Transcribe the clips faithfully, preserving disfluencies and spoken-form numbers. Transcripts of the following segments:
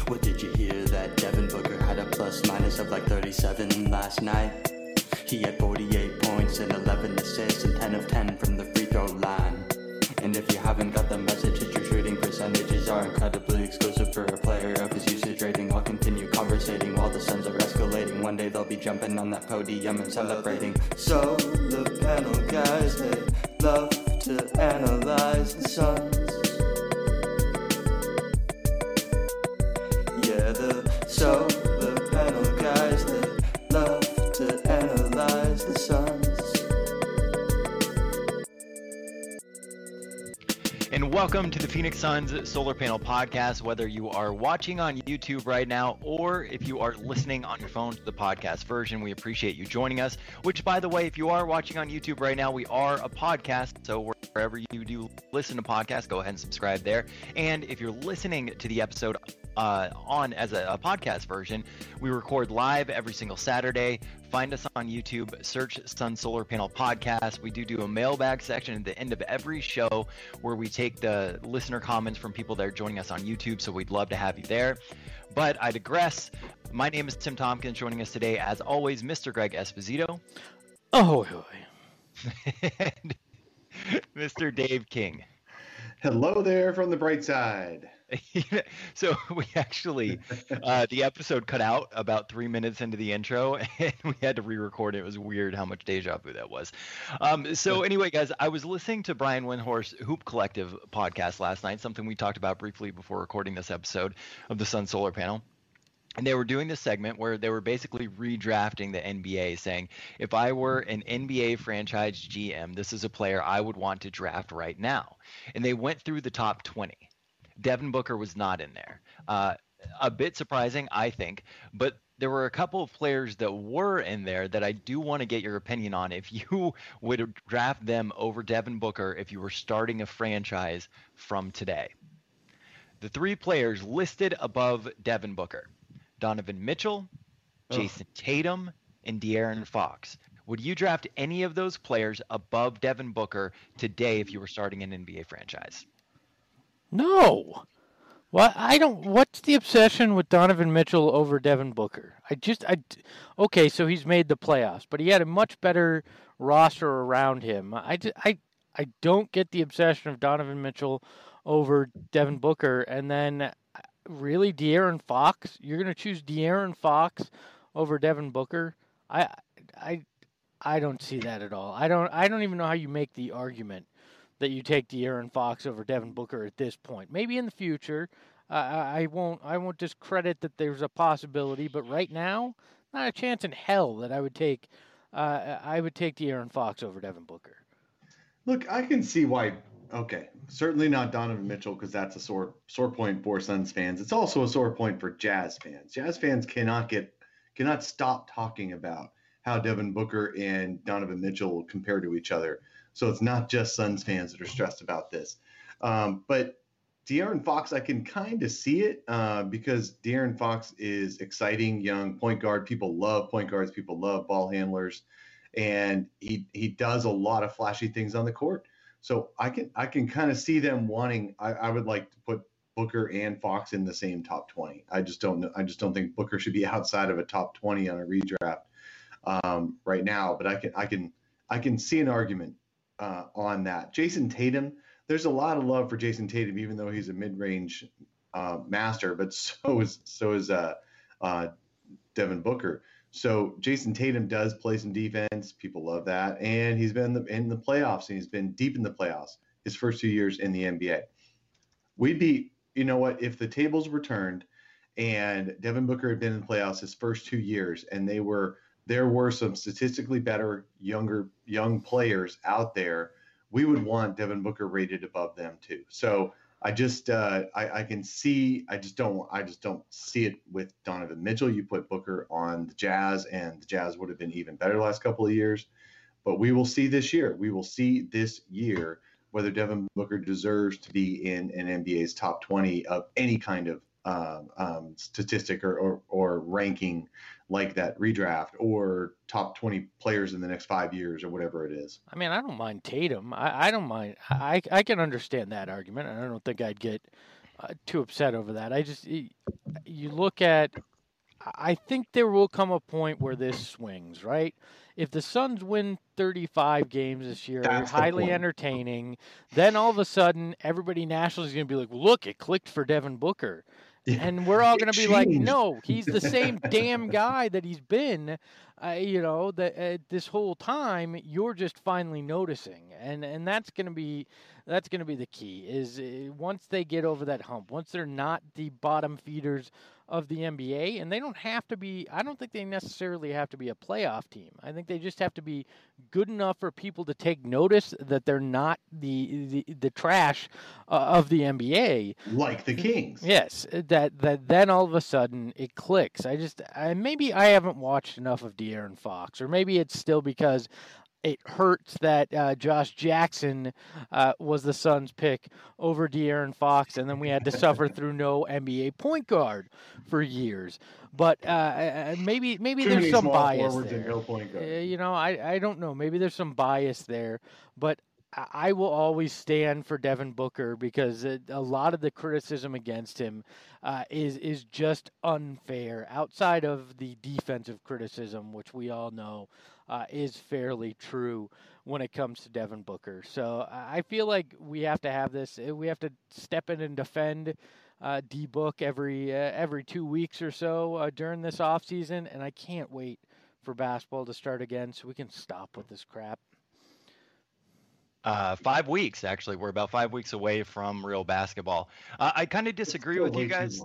What did you hear that Devin Booker had a plus minus of like thirty-seven last night? He had forty-eight points and eleven assists and ten of ten from the free throw line. And if you haven't got the message, his true shooting percentages are incredibly exclusive for a player of his usage rating. I'll continue conversating while the Suns are escalating. One day they'll be jumping on that podium and celebrating. So the panel guys, they love to analyze the Suns. Yeah, the so the panel guys, they love to analyze the Suns. And welcome to the Phoenix Suns Solar Panel Podcast. Whether you are watching on YouTube right now or if you are listening on your phone to the podcast version, we appreciate you joining us. Which, by the way, if you are watching on YouTube right now, we are a podcast. So wherever you do listen to podcasts, go ahead and subscribe there. And if you're listening to the episode uh, on as a, a podcast version, we record live every single Saturday. Find us on YouTube, search Sun Solar Panel Podcast. We do do a mailbag section at the end of every show where we take the listener comments from people that are joining us on YouTube, so we'd love to have you there. But I digress. My name is Tim Tompkins. Joining us today, as always, Mister Greg Esposito. Oh, and Mister Dave King. Hello there from the bright side. So we actually, uh, the episode cut out about three minutes into the intro, and we had to re-record it. It was weird how much deja vu that was. Um, so anyway, guys, I was listening to Brian Windhorst's Hoop Collective podcast last night, something we talked about briefly before recording this episode of the Sun Solar Panel. And they were doing this segment where they were basically redrafting the N B A, saying, if I were an N B A franchise G M, this is a player I would want to draft right now. And they went through the top twenty. Devin Booker was not in there. Uh, a bit surprising, I think, but there were a couple of players that were in there that I do want to get your opinion on. If you would draft them over Devin Booker if you were starting a franchise from today. The three players listed above Devin Booker: Donovan Mitchell, Jason oh. Tatum, and De'Aaron Fox. Would you draft any of those players above Devin Booker today if you were starting an N B A franchise? No. Well, I don't. What's the obsession with Donovan Mitchell over Devin Booker? I just, I, okay, so he's made the playoffs, but he had a much better roster around him. I, I, I don't get the obsession of Donovan Mitchell over Devin Booker, and then really De'Aaron Fox. You're going to choose De'Aaron Fox over Devin Booker? I, I, I don't see that at all. I don't. I don't even know how you make the argument that you take De'Aaron Fox over Devin Booker at this point. Maybe in the future, uh, I won't. I won't discredit that there's a possibility, but right now, not a chance in hell that I would take. Uh, I would take De'Aaron Fox over Devin Booker. Look, I can see why. Okay, certainly not Donovan Mitchell because that's a sore sore point for Suns fans. It's also a sore point for Jazz fans. Jazz fans cannot get cannot stop talking about how Devin Booker and Donovan Mitchell compare to each other. So it's not just Suns fans that are stressed about this. Um, but De'Aaron Fox, I can kind of see it uh, because De'Aaron Fox is exciting, young point guard. People love point guards. People love ball handlers. And he he does a lot of flashy things on the court. So I can I can kind of see them wanting. I, I would like to put Booker and Fox in the same top twenty. I just don't know. I just don't think Booker should be outside of a top twenty on a redraft um, right now. But I can I can I can see an argument uh, on that. Jason Tatum. There's a lot of love for Jason Tatum, even though he's a mid-range uh, master. But so is so is uh, uh, Devin Booker. So Jason Tatum does play some defense. People love that. And he's been in the, in the playoffs, and he's been deep in the playoffs his first two years in the N B A. We'd be, you know what, if the tables were turned and Devin Booker had been in the playoffs his first two years and they were there were some statistically better younger young players out there, we would want Devin Booker rated above them too. So I just uh, I, I can see I just don't I just don't see it with Donovan Mitchell. You put Booker on the Jazz, and the Jazz would have been even better the last couple of years. But we will see this year. We will see this year whether Devin Booker deserves to be in an N B A's top twenty of any kind of um, um, statistic or, or or ranking like that redraft, or top twenty players in the next five years or whatever it is. I mean, I don't mind Tatum. I, I don't mind. I, I can understand that argument, and I don't think I'd get uh, too upset over that. I just you look at. I think there will come a point where this swings, right? If the Suns win thirty-five games this year, That's the highly point. entertaining, then all of a sudden everybody nationally is going to be like, well, look, it clicked for Devin Booker. Yeah. And we're all It going to be like, changed. no, he's the same damn guy that he's been, uh, you know, that uh, this whole time. You're just finally noticing, and and that's going to be that's going to be the key. Is uh, once they get over that hump, once they're not the bottom feeders of the N B A, and they don't have to be. I don't think they necessarily have to be a playoff team. I think they just have to be good enough for people to take notice that they're not the the, the trash uh, of the N B A. Like the Kings. Yes, that that then all of a sudden it clicks. I just I, maybe I haven't watched enough of De'Aaron Fox, or maybe it's still because it hurts that uh, Josh Jackson uh, was the Suns' pick over De'Aaron Fox, and then we had to suffer through no N B A point guard for years. But uh, maybe maybe Too there's many some small bias forwards there. and no point guard. Uh, you know, I, I don't know. Maybe there's some bias there, but I will always stand for Devin Booker because a lot of the criticism against him uh, is is just unfair. Outside of the defensive criticism, which we all know uh, is fairly true when it comes to Devin Booker. So I feel like we have to have this. We have to step in and defend uh, D-Book every uh, every two weeks or so uh, during this offseason, and I can't wait for basketball to start again so we can stop with this crap. Uh, five weeks, actually. We're about five weeks away from real basketball. Uh, I kind of disagree with you guys.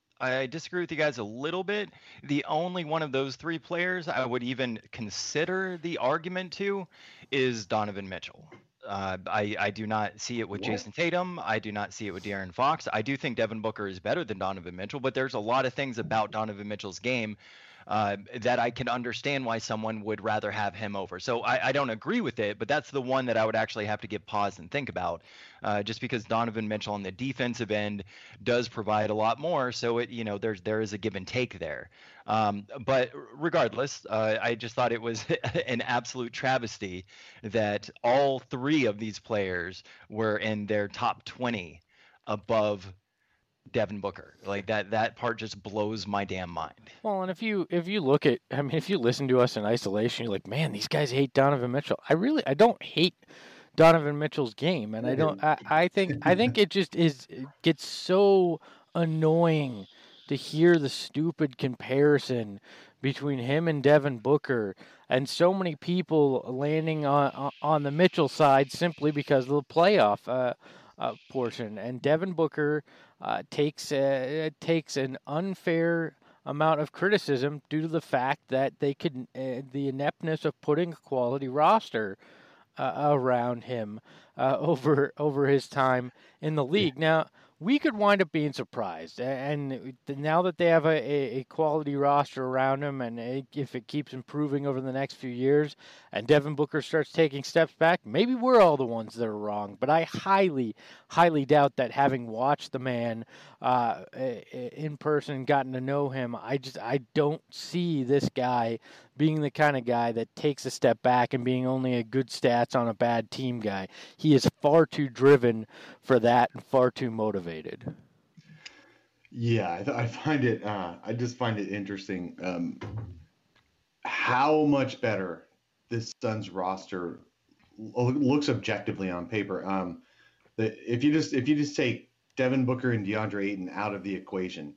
I disagree with you guys a little bit. The only one of those three players I would even consider the argument to is Donovan Mitchell. Uh, I, I do not see it with What? Jason Tatum. I do not see it with De'Aaron Fox. I do think Devin Booker is better than Donovan Mitchell, but there's a lot of things about Donovan Mitchell's game Uh, that I can understand why someone would rather have him over. So I, I don't agree with it, but that's the one that I would actually have to give pause and think about, uh, just because Donovan Mitchell on the defensive end does provide a lot more. So it, you know, there's there is a give and take there. Um, but regardless, uh, I just thought it was an absolute travesty that all three of these players were in their top twenty above Devin Booker. Like that that part just blows my damn mind. Well, and if you if you look at, I mean, if you listen to us in isolation, you're like, man, these guys hate Donovan Mitchell. I really, I don't hate Donovan Mitchell's game, and I don't. I, I think I think it just is it gets so annoying to hear the stupid comparison between him and Devin Booker, and so many people landing on on the Mitchell side simply because of the playoff uh, uh, portion, and Devin Booker. Uh, takes uh, takes an unfair amount of criticism due to the fact that they could uh, the ineptness of putting a quality roster uh, around him uh, over over his time in the league. Now we could wind up being surprised, and now that they have a, a quality roster around him, and if it keeps improving over the next few years, and Devin Booker starts taking steps back, maybe we're all the ones that are wrong. But I highly, highly doubt that, having watched the man uh, in person, gotten to know him, I just I don't see this guy being the kind of guy that takes a step back and being only a good stats on a bad team guy. He is far too driven for that and far too motivated. Yeah, I, th- I find it. Uh, I just find it interesting um, how much better this Suns roster lo- looks objectively on paper. Um, the, if you just if you just take Devin Booker and DeAndre Ayton out of the equation,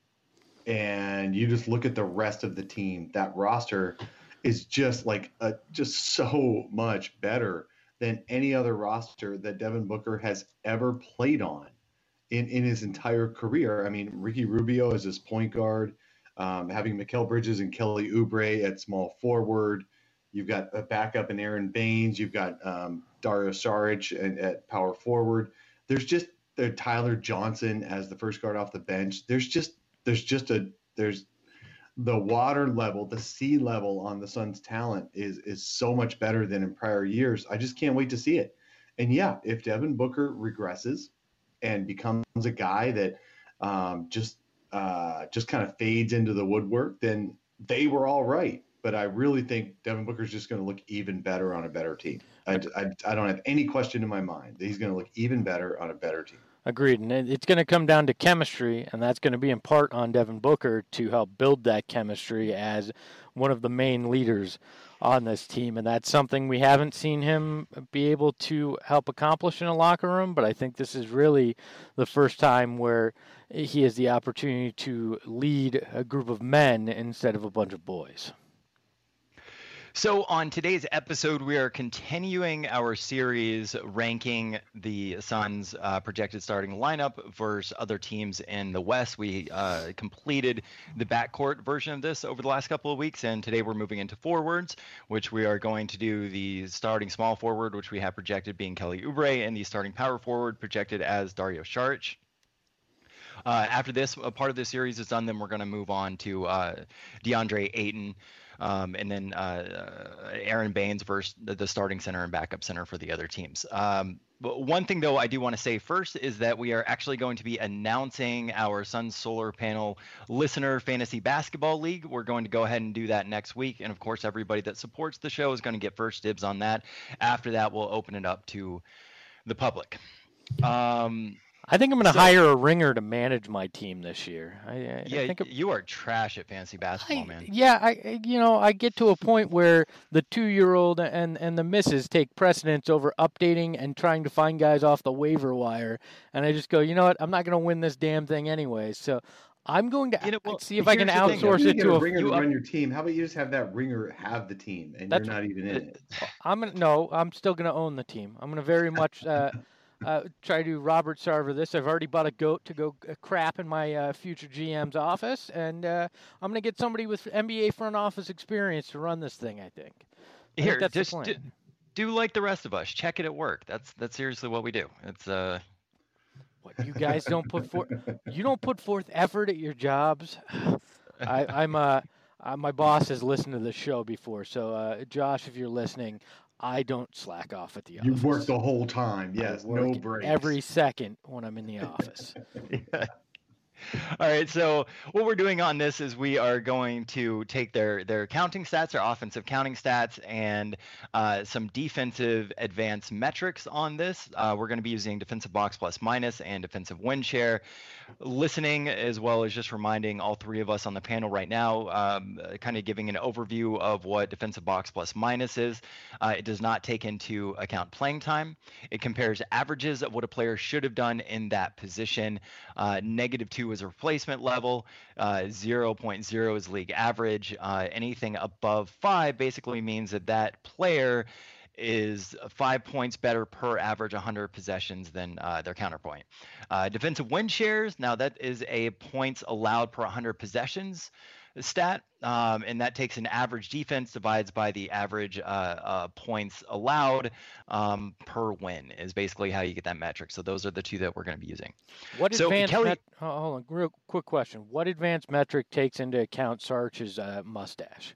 and you just look at the rest of the team, that roster is just like a, just so much better than any other roster that Devin Booker has ever played on in, in his entire career. I mean, Ricky Rubio as his point guard, um, having Mikal Bridges and Kelly Oubre at small forward. You've got a backup in Aaron Baines. You've got um, Dario Saric and, at power forward. There's just there Tyler Johnson as the first guard off the bench. There's just there's just a there's the water level, the sea level on the Suns' talent is is so much better than in prior years. I just can't wait to see it. And yeah, if Devin Booker regresses and becomes a guy that um, just uh, just kind of fades into the woodwork, then they were all right. But I really think Devin Booker's just going to look even better on a better team. I, I, I don't have any question in my mind that he's going to look even better on a better team. Agreed. And it's going to come down to chemistry, and that's going to be in part on Devin Booker to help build that chemistry as one of the main leaders on this team. And that's something we haven't seen him be able to help accomplish in a locker room, but I think this is really the first time where he has the opportunity to lead a group of men instead of a bunch of boys. So on today's episode, we are continuing our series ranking the Suns' uh, projected starting lineup versus other teams in the West. We uh, completed the backcourt version of this over the last couple of weeks, and today we're moving into forwards, which we are going to do the starting small forward, which we have projected being Kelly Oubre, and the starting power forward projected as Dario Saric. Uh, after this, a part of this series is done, then we're going to move on to uh, DeAndre Ayton. Um, and then uh, Aaron Baines versus the, the starting center and backup center for the other teams. Um, but one thing, though, I do want to say first is that we are actually going to be announcing our Suns Solar Panel Listener Fantasy Basketball League. We're going to go ahead and do that next week. And, of course, everybody that supports the show is going to get first dibs on that. After that, we'll open it up to the public. Um I think I'm going to So- hire a ringer to manage my team this year. I, I, Yeah, I think you are trash at fantasy basketball, I, man. yeah, I I- you know I get to a point where the two-year-old and and the missus take precedence over updating and trying to find guys off the waiver wire, and I just go, you know what? I'm not going to win this damn thing anyway. So I'm going to You know, well, see if I can here's the thing, outsource You it get to a a. ringer you to up- run your team. How about you just have that ringer have the team, and That's you're not even in it? I'm gonna no. I'm still going to own the team. I'm going to very much. Uh, Uh, try to Robert Sarver this. I've already bought a goat to go uh, crap in my uh, future G M's office, and uh, I'm going to get somebody with N B A front office experience to run this thing. I think. I Here, think that's just the do, plan. do like the rest of us. Check it at work. That's that's seriously what we do. It's uh. What, you guys don't put forth. You don't put forth effort at your jobs. I, I'm uh, uh, my boss has listened to the show before, so uh, Josh, if you're listening, I don't slack off at the You office. work the whole time. I Yes, work no breaks. every second when I'm in the office. Yeah. All right, so what we're doing on this is we are going to take their their counting stats, their offensive counting stats, and uh, some defensive advanced metrics on this. Uh, we're going to be using defensive box plus minus and defensive win share. Listening, as well as just reminding all three of us on the panel right now, um, uh, kind of giving an overview of what defensive box plus minus is. Uh, it does not take into account playing time. It compares averages of what a player should have done in that position. Uh, negative two is a replacement level. Uh, zero point zero is league average. Uh, anything above five basically means that that player is five points better per average one hundred possessions than uh, their counterpoint. Uh, defensive win shares, now that is a points allowed per one hundred possessions stat, um, and that takes an average defense divides by the average uh, uh, points allowed um, per win is basically how you get that metric. So those are the two that we're going to be using. What So, advanced Kelly- met- oh, hold on, real quick question. What advanced metric takes into account Sarch's uh, mustache?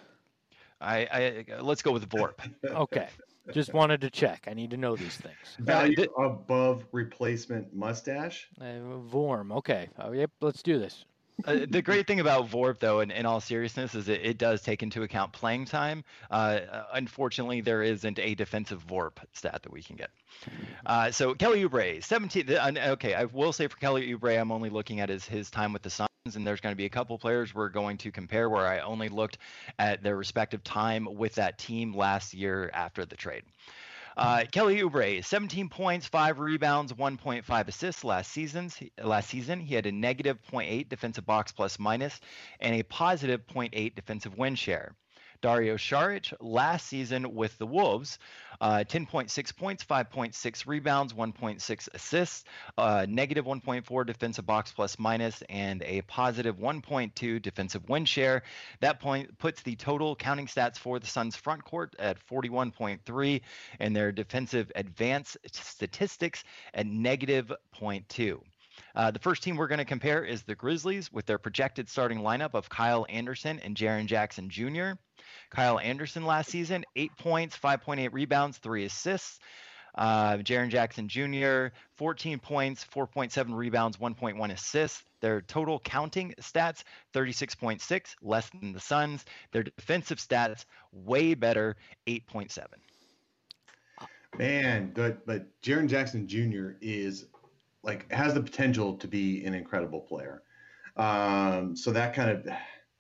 I, I let's go with VORP. Okay, just wanted to check. I need to know these things. Value th- above replacement mustache. Uh, Vorm. Okay. Oh, yep. Let's do this. Uh, the great thing about VORP, though, in, in all seriousness, is it, it does take into account playing time. Uh, unfortunately, there isn't a defensive VORP stat that we can get. Uh, so Kelly Oubre, seventeen. Uh, okay, I will say for Kelly Oubre, I'm only looking at his his time with the Suns, and there's going to be a couple players we're going to compare where I only looked at their respective time with that team last year after the trade. Uh, Kelly Oubre, seventeen points, five rebounds, one point five assists last season's last season. He had a negative zero point eight defensive box plus minus and a positive zero point eight defensive win share. Dario Saric last season with the Wolves, uh, ten point six points, five point six rebounds, one point six assists, uh, negative one point four defensive box plus minus, and a positive one point two defensive win share. That point puts the total counting stats for the Suns front court at forty-one point three and their defensive advanced statistics at negative zero point two. Uh, the first team we're going to compare is the Grizzlies with their projected starting lineup of Kyle Anderson and Jaren Jackson Junior Kyle Anderson last season, eight points, five point eight rebounds, three assists. Uh, Jaren Jackson Junior, fourteen points, four point seven rebounds, one point one assists. Their total counting stats, thirty-six point six, less than the Suns. Their defensive stats, way better, eight point seven. Man, but but Jaren Jackson Junior is like has the potential to be an incredible player. Um, so that kind of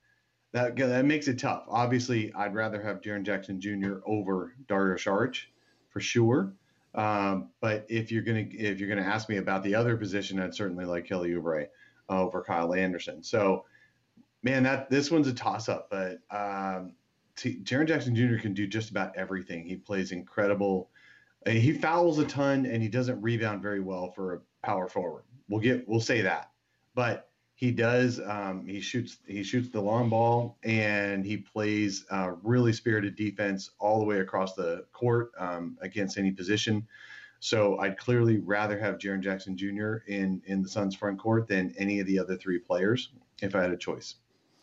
that that makes it tough. Obviously, I'd rather have Jaren Jackson Junior over Dario Saric for sure. Um, but if you're gonna if you're gonna ask me about the other position, I'd certainly like Kelly Oubre over Kyle Anderson. So, man, that this one's a toss up. But um, Jaren Jackson Junior can do just about everything. He plays incredible. He fouls a ton and he doesn't rebound very well for a power forward. We'll get we'll say that, but he does. Um, he shoots he shoots the long ball and he plays uh, really spirited defense all the way across the court um, against any position. So I'd clearly rather have Jaren Jackson Junior in in the Suns front court than any of the other three players if I had a choice.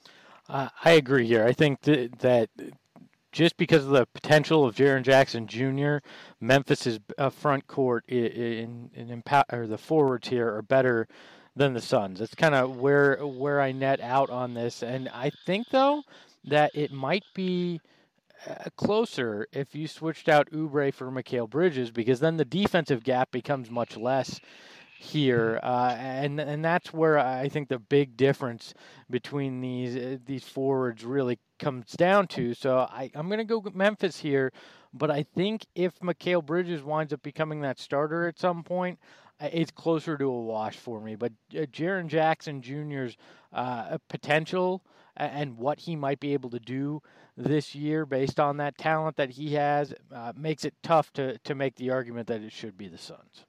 Uh, I agree here. I think th- that. Just because of the potential of Jaren Jackson Junior, Memphis's uh, front court in, in, in or the forwards here are better than the Suns. That's kind of where where I net out on this, and I think though that it might be uh, closer if you switched out Oubre for Mikal Bridges, because then the defensive gap becomes much less here, uh, and and that's where I think the big difference between these uh, these forwards really comes down to. So I, I'm going to go with Memphis here, but I think if Mikal Bridges winds up becoming that starter at some point, it's closer to a wash for me. But uh, Jaren Jackson Junior's uh, potential and what he might be able to do this year based on that talent that he has uh, makes it tough to, to make the argument that it should be the Suns.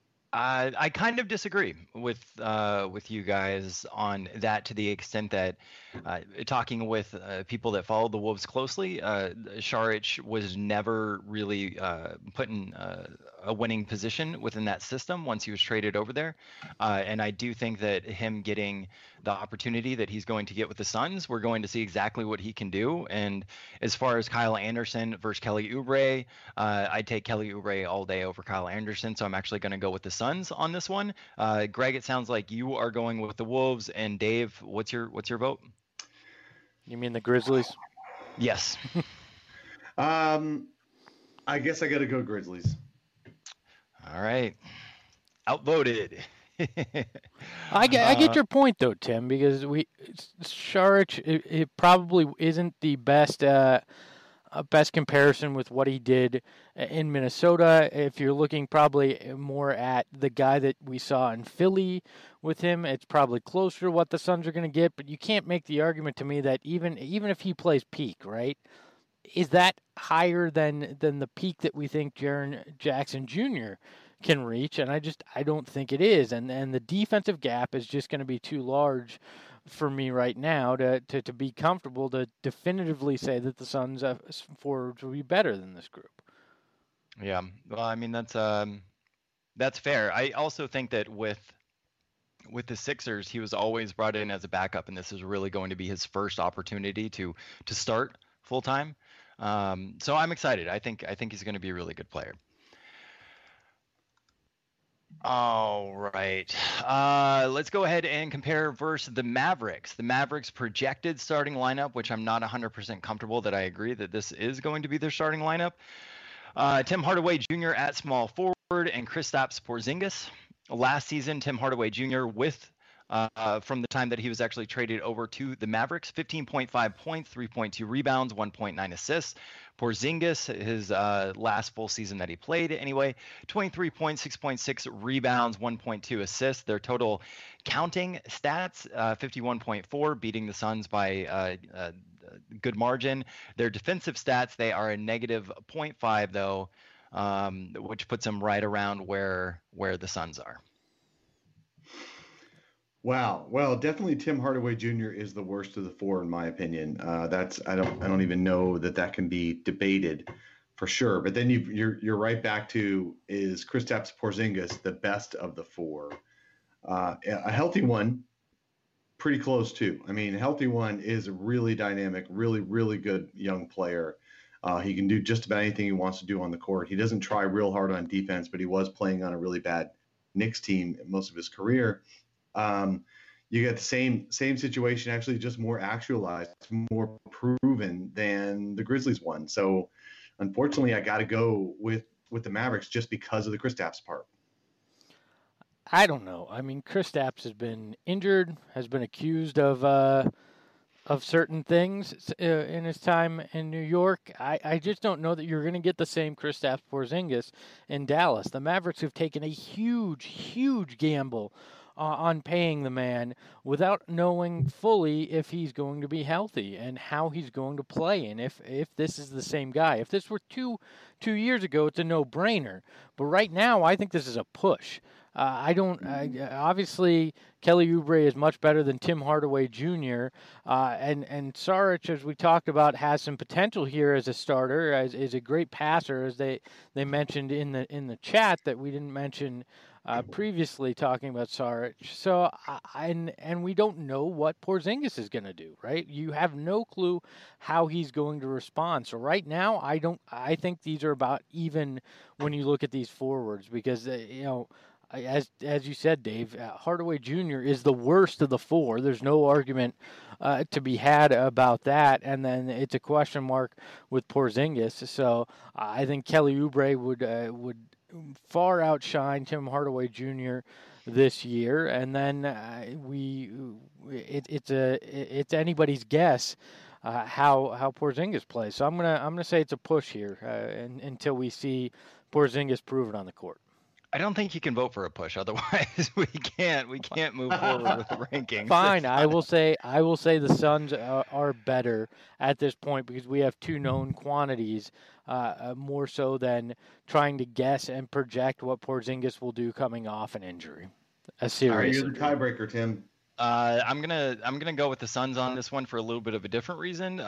Uh, I kind of disagree with uh, with you guys on that, to the extent that uh, talking with uh, people that follow the Wolves closely, uh, Saric was never really uh, put in uh, a winning position within that system once he was traded over there. Uh, and I do think that him getting the opportunity that he's going to get with the Suns, we're going to see exactly what he can do. And as far as Kyle Anderson versus Kelly Oubre, uh, I'd take Kelly Oubre all day over Kyle Anderson. So I'm actually going to go with the Suns on this one. Uh, Greg, it sounds like you are going with the Wolves, and Dave, what's your what's your vote? You mean the Grizzlies? Yes. um, I guess I got to go Grizzlies. All right. Outvoted. I get, I get your point though, Tim, because we Saric it, it probably isn't the best uh, uh, best comparison with what he did in Minnesota. If you're looking probably more at the guy that we saw in Philly with him, it's probably closer to what the Suns are going to get. But you can't make the argument to me that even even if he plays peak, right, is that higher than than the peak that we think Jaren Jackson Junior can reach? And I just I don't think it is. And and the defensive gap is just going to be too large for me right now to, to, to be comfortable to definitively say that the Suns uh, forwards will be better than this group. Yeah, well, I mean that's um that's fair. I also think that with with the Sixers, he was always brought in as a backup, and this is really going to be his first opportunity to to start full time. Um, so I'm excited. I think I think he's going to be a really good player. All right. Uh, let's go ahead and compare versus the Mavericks. The Mavericks projected starting lineup, which I'm not one hundred percent comfortable that I agree that this is going to be their starting lineup. Uh, Tim Hardaway Junior at small forward and Kristaps Porzingis. Last season, Tim Hardaway Junior with uh, from the time that he was actually traded over to the Mavericks, fifteen point five points, three point two rebounds, one point nine assists. Porzingis, his uh, last full season that he played anyway, twenty-three points, six point six rebounds, one point two assists. Their total counting stats, uh, fifty-one point four, beating the Suns by uh, a good margin. Their defensive stats, they are a negative zero point five though, um, which puts them right around where where the Suns are. Wow. Well, definitely Tim Hardaway Junior is the worst of the four, in my opinion. Uh, that's I don't I don't even know that that can be debated for sure. But then you you're you're right back to, is Kristaps Porzingis the best of the four? Uh, a healthy one, pretty close too. I mean, a healthy one is a really dynamic, really really good young player. Uh, he can do just about anything he wants to do on the court. He doesn't try real hard on defense, but he was playing on a really bad Knicks team most of his career. Um, you get the same same situation, actually just more actualized, more proven than the Grizzlies one. So unfortunately, I got to go with with the Mavericks just because of the Kristaps part. I don't know. I mean, Kristaps has been injured, has been accused of uh, of certain things uh, in his time in New York. I, I just don't know that you're going to get the same Kristaps Porzingis in Dallas. The Mavericks have taken a huge, huge gamble uh, on paying the man without knowing fully if he's going to be healthy and how he's going to play, and if if this is the same guy. If this were two two years ago, it's a no-brainer. But right now, I think this is a push. Uh, I don't. I, obviously, Kelly Oubre is much better than Tim Hardaway Junior Uh, and and Saric, as we talked about, has some potential here as a starter. As is a great passer, as they, they mentioned in the in the chat that we didn't mention uh, previously, talking about Saric. So uh, and and we don't know what Porzingis is going to do. Right? You have no clue how he's going to respond. So right now, I don't. I think these are about even when you look at these forwards, because uh, you know. As as you said, Dave, uh, Hardaway Junior is the worst of the four. There's no argument uh, to be had about that. And then it's a question mark with Porzingis. So uh, I think Kelly Oubre would uh, would far outshine Tim Hardaway Junior this year. And then uh, we it, it's a it's anybody's guess uh, how how Porzingis plays. So I'm gonna I'm gonna say it's a push here uh, in, until we see Porzingis prove it on the court. I don't think you can vote for a push. Otherwise, we can't. We can't move forward with the rankings. Fine. I will say. I will say the Suns are, are better at this point because we have two known quantities, uh, more so than trying to guess and project what Porzingis will do coming off an injury. A serious. All right, you're the tiebreaker, Tim. Uh, I'm gonna I'm gonna go with the Suns on this one for a little bit of a different reason.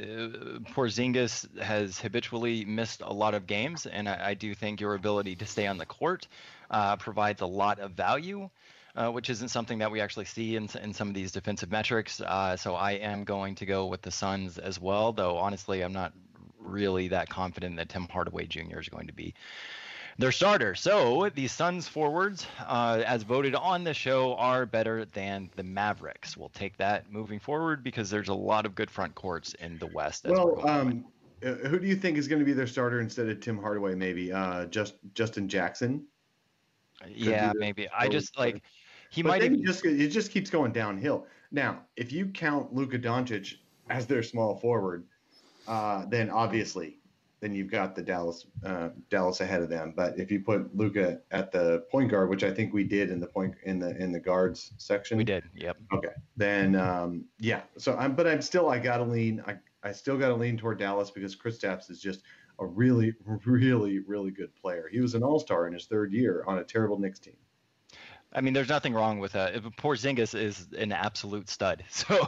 Uh, Porzingis has habitually missed a lot of games, and I, I do think your ability to stay on the court uh, provides a lot of value, uh, which isn't something that we actually see in in some of these defensive metrics. Uh, so I am going to go with the Suns as well, though honestly I'm not really that confident that Tim Hardaway Junior is going to be their starter. So the Suns forwards, uh, as voted on the show, are better than the Mavericks. We'll take that moving forward because there's a lot of good front courts in the West. As well, um, uh, who do you think is going to be their starter instead of Tim Hardaway? Maybe uh, just Justin Jackson. Could yeah, maybe. I just like he but might then even just it just keeps going downhill. Now, if you count Luka Doncic as their small forward, uh, then obviously. Then you've got the Dallas uh, Dallas ahead of them. But if you put Luka at the point guard, which I think we did in the point in the in the guards section, we did. Yep. Okay. Then um, yeah. So I'm, but I'm still I gotta lean. I I still gotta lean toward Dallas because Kristaps is just a really really really good player. He was an all-star in his third year on a terrible Knicks team. I mean, there's nothing wrong with that. Porzingis is an absolute stud. So,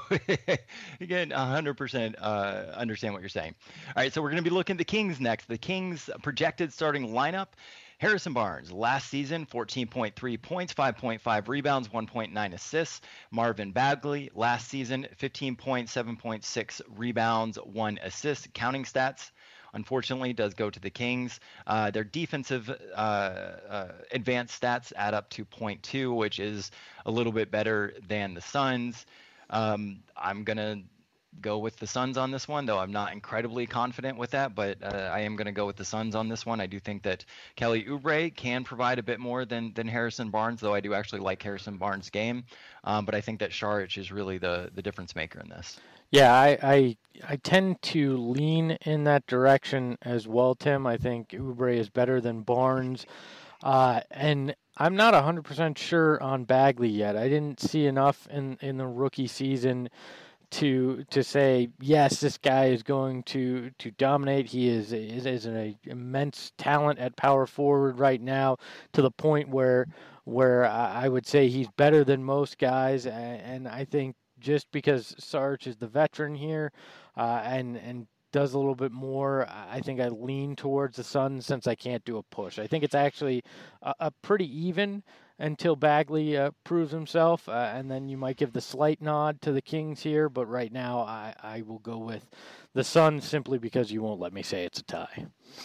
again, one hundred percent uh, understand what you're saying. All right, so we're going to be looking at the Kings next. The Kings projected starting lineup. Harrison Barnes, last season, fourteen point three points, five point five rebounds, one point nine assists. Marvin Bagley, last season, fifteen points, seven point six rebounds, one assist. Counting stats, unfortunately, does go to the Kings. Uh, their defensive uh, uh, advanced stats add up to point two, which is a little bit better than the Suns. Um, I'm going to go with the Suns on this one, though I'm not incredibly confident with that, but uh, I am going to go with the Suns on this one. I do think that Kelly Oubre can provide a bit more than than Harrison Barnes, though I do actually like Harrison Barnes' game. Um, but I think that Saric is really the, the difference maker in this. Yeah, I, I I tend to lean in that direction as well, Tim. I think Oubre is better than Barnes. Uh, and I'm not one hundred percent sure on Bagley yet. I didn't see enough in, in the rookie season to to say, yes, this guy is going to, to dominate. He is, is, is an immense talent at power forward right now, to the point where where I would say he's better than most guys. And I think just because Saric is the veteran here uh, and and does a little bit more, I think I lean towards the Suns since I can't do a push. I think it's actually a, a pretty even until Bagley uh, proves himself, uh, and then you might give the slight nod to the Kings here, but right now I, I will go with the Suns simply because you won't let me say it's a tie.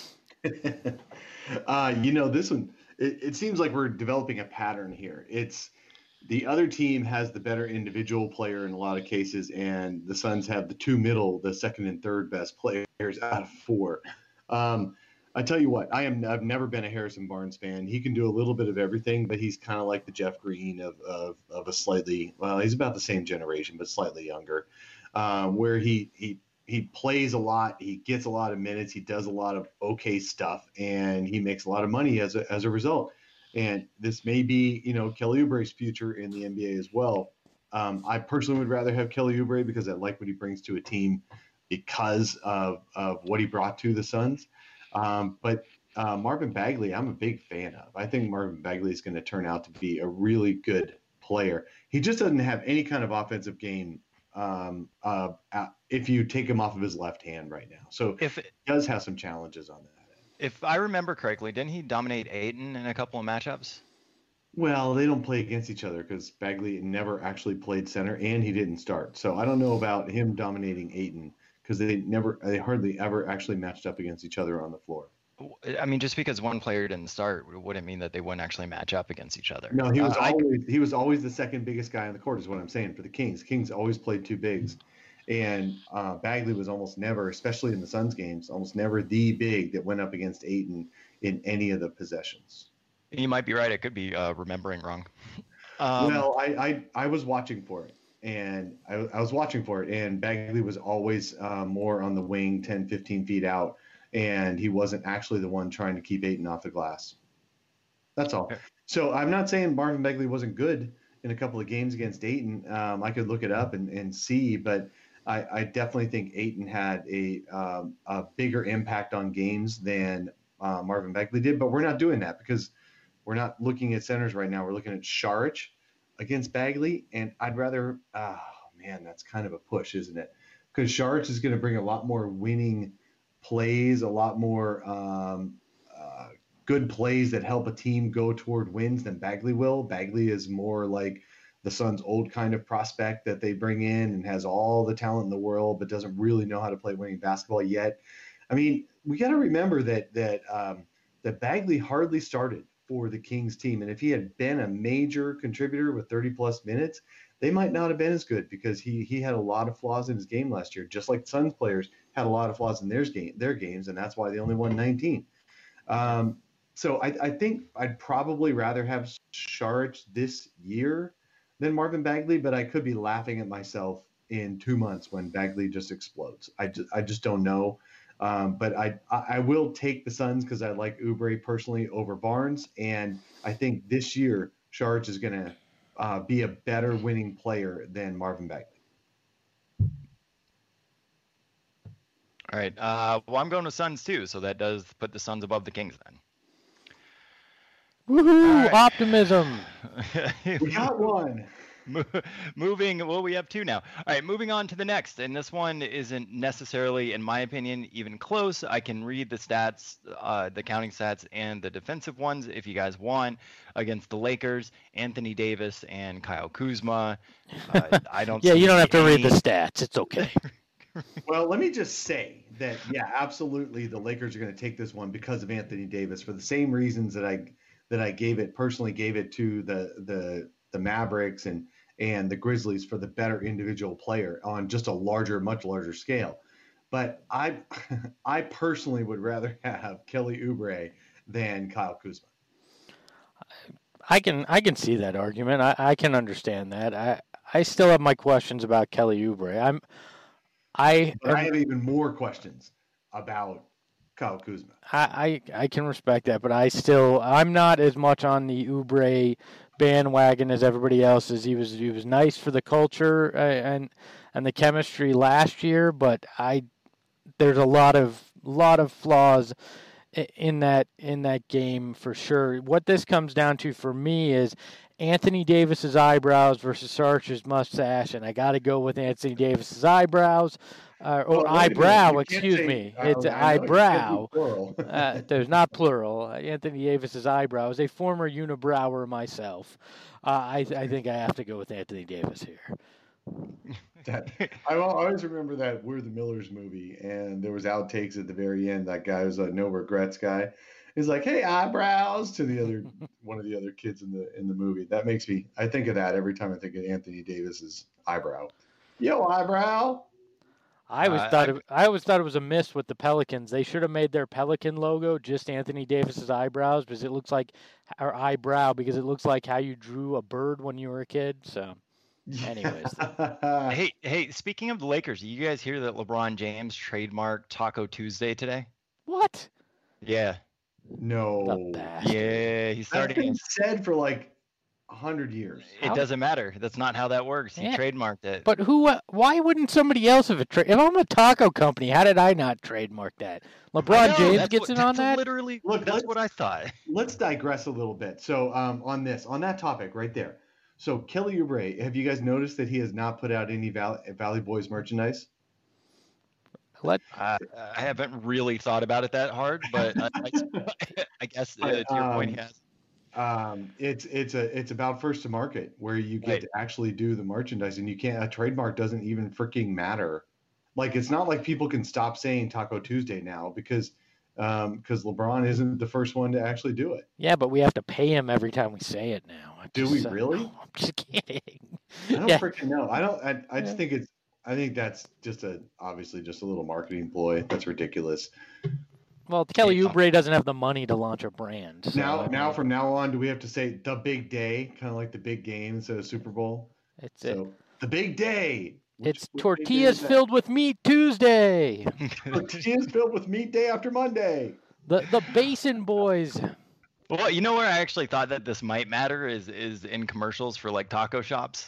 uh, you know, this one, it, it seems like we're developing a pattern here. It's the other team has the better individual player in a lot of cases, and the Suns have the two middle, the second and third best players out of four. Um, I tell you what, I am. I've never been a Harrison Barnes fan. He can do a little bit of everything, but he's kind of like the Jeff Green of, of of a slightly. Well, he's about the same generation, but slightly younger, um, where he he he plays a lot. He gets a lot of minutes. He does a lot of okay stuff, and he makes a lot of money as a as a result. And this may be, you know, Kelly Oubre's future in the N B A as well. Um, I personally would rather have Kelly Oubre because I like what he brings to a team because of of what he brought to the Suns. Um, but uh, Marvin Bagley, I'm a big fan of. I think Marvin Bagley is going to turn out to be a really good player. He just doesn't have any kind of offensive game um, uh, if you take him off of his left hand right now. So if it, he does have some challenges on that. If I remember correctly, didn't he dominate Ayton in a couple of matchups? Well, they don't play against each other because Bagley never actually played center and he didn't start. So I don't know about him dominating Ayton. Because they never, they hardly ever actually matched up against each other on the floor. I mean, just because one player didn't start wouldn't mean that they wouldn't actually match up against each other. No, he was uh, always I, he was always the second biggest guy on the court, is what I'm saying for the Kings. Kings always played two bigs, and uh, Bagley was almost never, especially in the Suns games, almost never the big that went up against Ayton in any of the possessions. You might be right. I could be uh, remembering wrong. Um, well, I, I I was watching for it. And I, I was watching for it, and Bagley was always uh, more on the wing, ten, fifteen feet out, and he wasn't actually the one trying to keep Ayton off the glass. That's all. So I'm not saying Marvin Bagley wasn't good in a couple of games against Ayton. Um, I could look it up and, and see, but I, I definitely think Ayton had a, um, a bigger impact on games than uh, Marvin Bagley did, but we're not doing that because we're not looking at centers right now. We're looking at Saric against Bagley, and I'd rather, oh man, that's kind of a push, isn't it? Because Saric is going to bring a lot more winning plays, a lot more um, uh, good plays that help a team go toward wins than Bagley will. Bagley is more like the Suns' old kind of prospect that they bring in and has all the talent in the world, but doesn't really know how to play winning basketball yet. I mean, we got to remember that that um, that Bagley hardly started for the Kings team. And if he had been a major contributor with thirty plus minutes, they might not have been as good because he he had a lot of flaws in his game last year, just like Suns players had a lot of flaws in their game their games, and that's why they only won nineteen. Um, so I, I think I'd probably rather have Saric this year than Marvin Bagley, but I could be laughing at myself in two months when Bagley just explodes. I just, I just don't know. Um, but I I will take the Suns because I like Oubre personally over Barnes, and I think this year Saric is going to uh, be a better winning player than Marvin Bagley. All right. Uh, well, I'm going with Suns too, so that does put the Suns above the Kings then. Woohoo! Right. Optimism. We got one. Moving, well, we have two now. All right, moving on to the next, and this one isn't necessarily, in my opinion, even close. I can read the stats, uh, the counting stats, and the defensive ones if you guys want. Against the Lakers, Anthony Davis and Kyle Kuzma. Uh, I don't. yeah, see you don't have to any... read the stats. It's okay. Well, let me just say that, yeah, absolutely, the Lakers are going to take this one because of Anthony Davis for the same reasons that I that I gave it personally gave it to the the the Mavericks and and the Grizzlies for the better individual player on just a larger, much larger scale. But I I personally would rather have Kelly Oubre than Kyle Kuzma. I can I can see that argument. I, I can understand that. I, I still have my questions about Kelly Oubre. I'm I But I have even more questions about Kyle Kuzma. I, I I can respect that, but I still I'm not as much on the Oubre bandwagon as everybody else is. He was he was nice for the culture uh, and and the chemistry last year, but I there's a lot of lot of flaws in that in that game for sure. What this comes down to for me is Anthony Davis's eyebrows versus Saric's mustache, and I got to go with Anthony Davis's eyebrows. Uh, or well, eyebrow, excuse say, me. It's eyebrow. uh, there's not plural. Anthony Davis's eyebrow. As a former unibrower myself, uh, I, I think I have to go with Anthony Davis here. That, I always remember that We're the Millers movie, and there was outtakes at the very end. That guy was a no regrets guy. He's like, "Hey, eyebrows," to the other one of the other kids in the in the movie. That makes me. I think of that every time I think of Anthony Davis's eyebrow. Yo, eyebrow. I always Uh, thought I- it, I always thought it was a miss with the Pelicans. They should have made their Pelican logo just Anthony Davis's eyebrows because it looks like our eyebrow because it looks like how you drew a bird when you were a kid. So, anyways, Hey, hey, speaking of the Lakers, did you guys hear that LeBron James trademarked Taco Tuesday today? what? Yeah. no. The bastard. Yeah, he's That's starting. been said for like a hundred years. It How- doesn't matter. That's not how that works. He Yeah. trademarked it. But who? Uh, why wouldn't somebody else have a trade? If I'm a taco company, how did I not trademark that? I LeBron know, James that's gets what- in on that's that. Literally, Look, that's let's- what I thought. Let's digress a little bit. So um, on this, on that topic right there. So Kelly Oubre, have you guys noticed that he has not put out any Valley, Valley Boys merchandise? Let Uh, I haven't really thought about it that hard, but I, I, I guess uh, to your point, he Um, has. Um, it's it's a it's about first to market where you get Right. to actually do the merchandise, and you can't. A trademark doesn't even freaking matter. Like it's not like people can stop saying Taco Tuesday now because um because LeBron isn't the first one to actually do it. yeah, but we have to pay him every time we say it now. I Do just, we uh, really? no, I'm just kidding. I don't Yeah. freaking know. I don't. I, I just Yeah. think it's. I think that's just a obviously just a little marketing ploy. That's ridiculous. Well, Kelly Yeah. Oubre doesn't have the money to launch a brand. So, now I now mean, from now on, do we have to say the big day, kind of like the big game instead of Super Bowl? it's it. So the big day. Which- It's which big day tortillas is that? filled with meat Tortillas Tuesday. filled with meat day after Monday. The the Basin Boys. Well, you know where I actually thought that this might matter is is in commercials for like taco shops.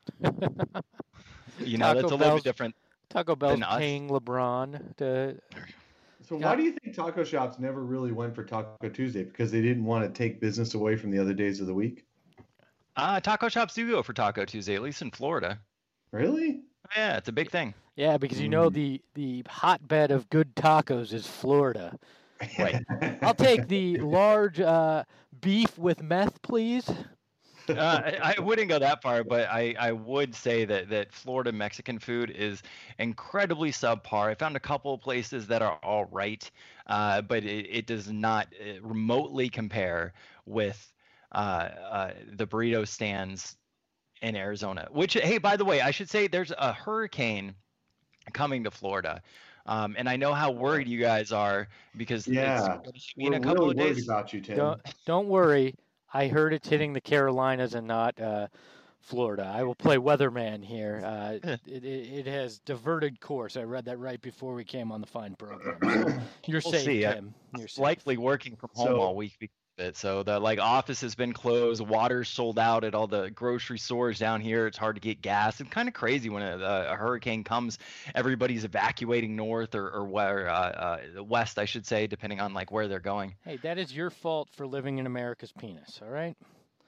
You know, Taco that's a little Bell's- bit different. Taco Bell's Than us. paying LeBron to. So Yeah. why do you think taco shops never really went for Taco Tuesday? Because they didn't want to take business away from the other days of the week? Uh, taco shops do go for Taco Tuesday, at least in Florida. Really? Yeah, it's a big thing. Yeah, because you know Mm. the the hotbed of good tacos is Florida. Right. I'll take the large uh, beef with meth, please. Uh, I, I wouldn't go that far, but I, I would say that, that Florida Mexican food is incredibly subpar. I found a couple of places that are all right, uh, but it, it does not uh, remotely compare with uh, uh, the burrito stands in Arizona. Which, hey, by the way, I should say there's a hurricane coming to Florida. Um, and I know how worried you guys are because Yeah, it's in We're a couple really of worried days. about you, Tim. Don't don't worry. I heard it's hitting the Carolinas and not uh, Florida. I will play weatherman here. Uh, Yeah. it, it, it has diverted course. I read that right before we came on the fine program. So you're We'll safe, see. I- Tim. You're safe. Likely working from home So- all week because of it. So the like office has been closed, water's sold out at all the grocery stores down here. It's hard to get gas. It's kind of crazy when a, a hurricane comes. Everybody's evacuating north or, or where uh, uh, west, I should say, depending on like where they're going. Hey, that is your fault for living in America's penis. All right.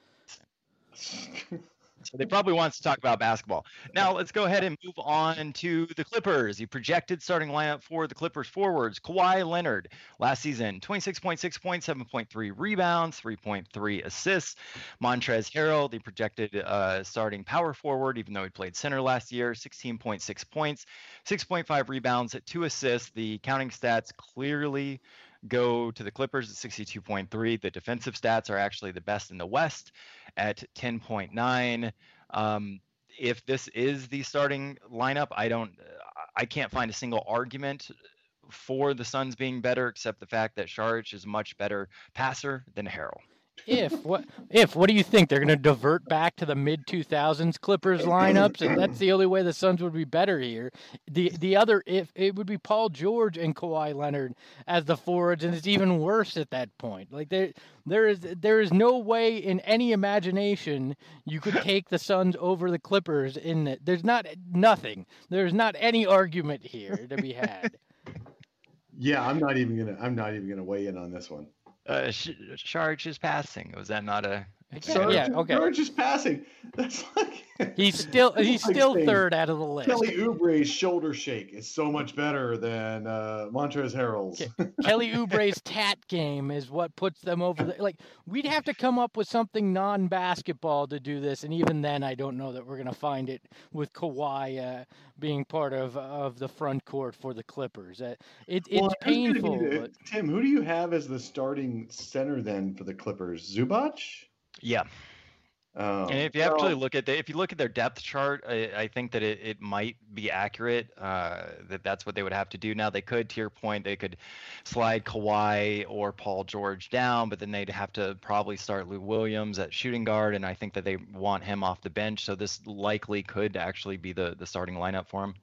So they probably want us to talk about basketball. Now let's go ahead and move on to the Clippers. The projected starting lineup for the Clippers forwards: Kawhi Leonard, last season twenty-six point six points, seven point three rebounds, three point three assists. Montrezl Harrell, the projected uh, starting power forward, even though he played center last year, sixteen point six points, six point five rebounds, two assists. The counting stats clearly go to the Clippers at sixty-two point three. The defensive stats are actually the best in the West at ten point nine. Um, if this is the starting lineup, I don't, I can't find a single argument for the Suns being better, except the fact that Saric is a much better passer than Harrell. If what if what do you think they're going to divert back to the mid two thousands Clippers lineups, and that's the only way the Suns would be better here. The the other if it would be Paul George and Kawhi Leonard as the forwards, and it's even worse at that point. Like there there is there is no way in any imagination you could take the Suns over the Clippers. In the, there's not nothing. There's not any argument here to be had. Yeah, I'm not even gonna. I'm not even gonna weigh in on this one. Uh, Sh- Saric is passing. Was that not a? Okay, yeah, okay. George just passing. That's like He's still he's Like still saying third out of the list. Kelly Oubre's shoulder shake is so much better than uh, Montrezl Harrell's. Kelly Oubre's tat game is what puts them over the like we'd have to come up with something non-basketball to do this, and even then I don't know that we're gonna find it with Kawhi uh, being part of of the front court for the Clippers. Uh, it, it's Well, who's gonna be painful. the- But Tim, who do you have as the starting center then for the Clippers? Zubac? Yeah. Um, And if you actually look at the, if you look at their depth chart, I, I think that it, it might be accurate uh, that that's what they would have to do. Now they could, to your point, they could slide Kawhi or Paul George down, but then they'd have to probably start Lou Williams at shooting guard, and I think that they want him off the bench. So this likely could actually be the the starting lineup for him.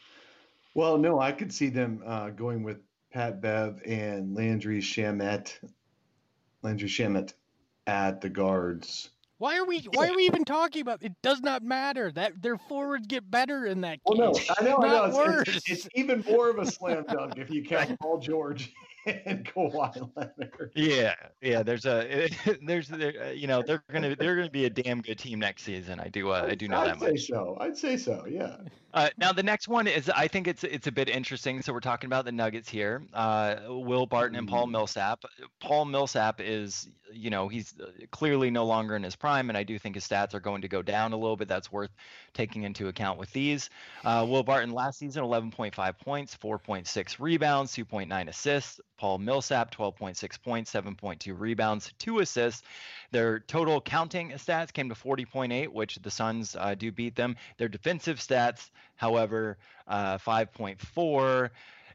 Well, no, I could see them uh, going with Pat Bev and Landry Shamet, Landry Shamet at the guards. Why are we? Why are we even talking about? It does not matter. That their forwards get better in that case. Well, no, I know, I know. Not It's, worse. it's, it's even more of a slam dunk if you count Paul George and Kawhi Leonard. Yeah, yeah. There's a there's there, you know they're gonna they're gonna be a damn good team next season. I do uh, I do know I'd that say much. so. I'd say so. Yeah. Uh, now the next one is I think it's it's a bit interesting. So we're talking about the Nuggets here. Uh, Will Barton and Paul Millsap. Paul Millsap is you know he's clearly no longer in his prime, and I do think his stats are going to go down a little bit. That's worth taking into account with these. Uh, Will Barton last season eleven point five points, four point six rebounds, two point nine assists. Paul Millsap twelve point six points, seven point two rebounds, two assists. Their total counting stats came to forty point eight, which the Suns uh, do beat them. Their defensive stats, however, uh, five point four.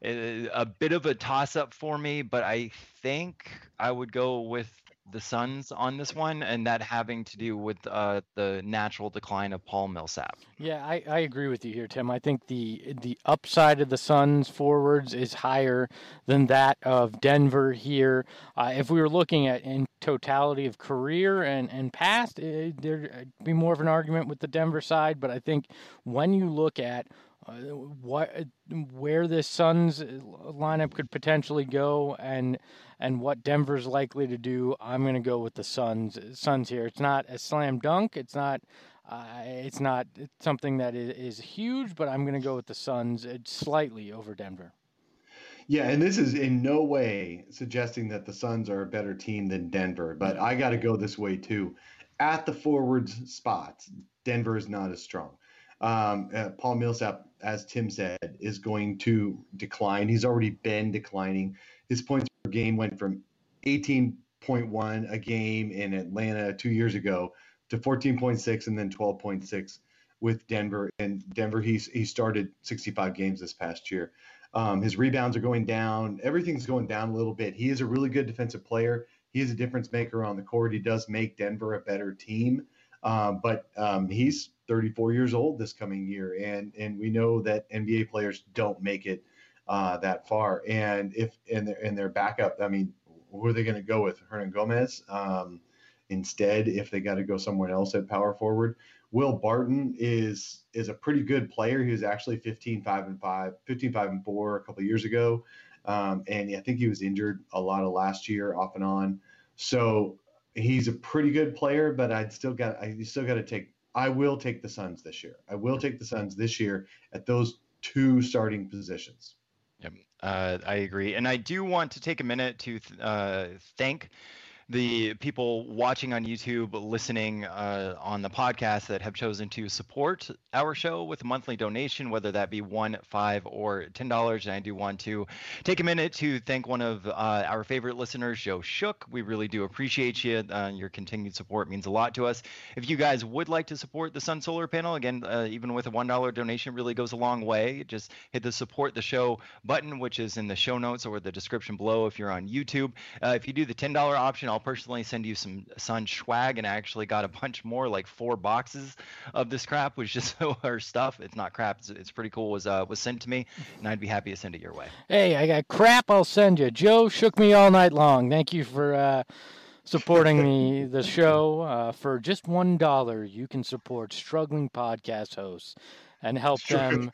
A bit of a toss-up for me, but I think I would go with the Suns on this one, and that having to do with uh, the natural decline of Paul Millsap. Yeah, I, I agree with you here, Tim. I think the the upside of the Suns forwards is higher than that of Denver here. Uh, if we were looking at in totality of career and, and past, it, there'd be more of an argument with the Denver side, but I think when you look at Uh, what, where this Suns lineup could potentially go, and and what Denver's likely to do, I'm going to go with the Suns. Suns here. It's not a slam dunk. It's not. Uh, it's not something that is, is huge, but I'm going to go with the Suns slightly over Denver. Yeah, and this is in no way suggesting that the Suns are a better team than Denver, but I got to go this way too. At the forwards spots, Denver is not as strong. Um, uh, Paul Millsap, as Tim said, is going to decline. He's already been declining. His points per game went from eighteen point one a game in Atlanta two years ago to fourteen point six and then twelve point six with Denver. And Denver, he's, he started sixty-five games this past year. Um, his rebounds are going down. Everything's going down a little bit. He is a really good defensive player. He is a difference maker on the court. He does make Denver a better team. Um, but um, he's thirty-four years old this coming year, and and we know that N B A players don't make it uh, that far. And if in their in their backup, I mean, who are they going to go with? Hernan Gomez um, instead? If they got to go somewhere else at power forward, Will Barton is is a pretty good player. He was actually fifteen five and five, fifteen five and four a couple of years ago, um, and I think he was injured a lot of last year, off and on. So he's a pretty good player, but I'd still got I still got to take. I will take the Suns this year. I will take the Suns this year at those two starting positions. Yep, uh, I agree, and I do want to take a minute to uh, thank the people watching on YouTube, listening uh, on the podcast that have chosen to support our show with a monthly donation, whether that be one, five, or ten dollars. And I do want to take a minute to thank one of uh, our favorite listeners, Joe Shook. We really do appreciate you. Uh, your continued support means a lot to us. If you guys would like to support the Sun Solar Panel, again, uh, even with a one dollar donation, really goes a long way. Just hit the support the show button, which is in the show notes or the description below if you're on YouTube. Uh, if you do the ten dollar option, I'll personally send you some Sun swag, and I actually got a bunch more, like four boxes of this crap, which is our stuff. It's not crap. It's, it's pretty cool. Was uh was sent to me, and I'd be happy to send it your way. Hey, I got crap. I'll send you. Joe shook me all night long. Thank you for uh, supporting the the show. Uh, for just one dollar, you can support struggling podcast hosts and help them.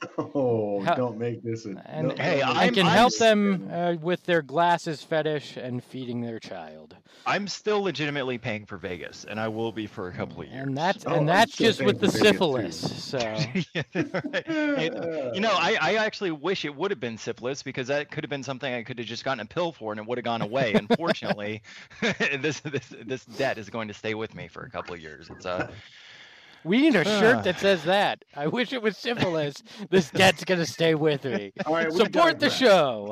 Oh, help, don't make this a. And, no, hey, and I can I'm, help I'm, them uh, with their glasses fetish and feeding their child. I'm still legitimately paying for Vegas, and I will be for a couple of years. And that's Oh, and I'm that's still just with the paying for syphilis. Vegas, So Yeah, right. Hey, you know, I, I actually wish it would have been syphilis, because that could have been something I could have just gotten a pill for and it would have gone away. Unfortunately, this this this debt is going to stay with me for a couple of years. It's uh We need a shirt that says that. I wish it was simple as this debt's going to stay with me. All right, we Support the digress. show.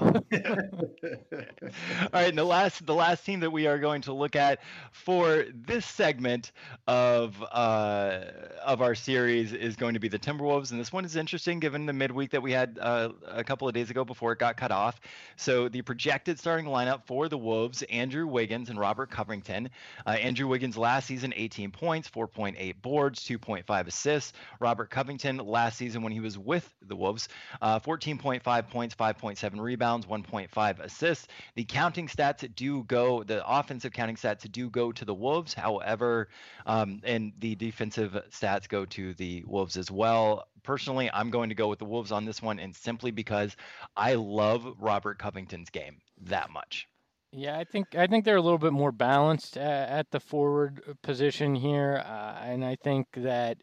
All right, and the last the last team that we are going to look at for this segment of uh, of our series is going to be the Timberwolves, and this one is interesting given the midweek that we had uh, a couple of days ago before it got cut off. So the projected starting lineup for the Wolves: Andrew Wiggins and Robert Covington. Uh, Andrew Wiggins last season eighteen points, four point eight boards, two point five assists. Robert Covington last season when he was with the Wolves, uh, fourteen point five points, five point seven rebounds, one point five assists. The counting stats do go, the offensive counting stats do go to the Wolves. However, um, and the defensive stats go to the Wolves as well. Personally, I'm going to go with the Wolves on this one, and simply because I love Robert Covington's game that much. Yeah, I think I think they're a little bit more balanced uh, at the forward position here, uh, and I think that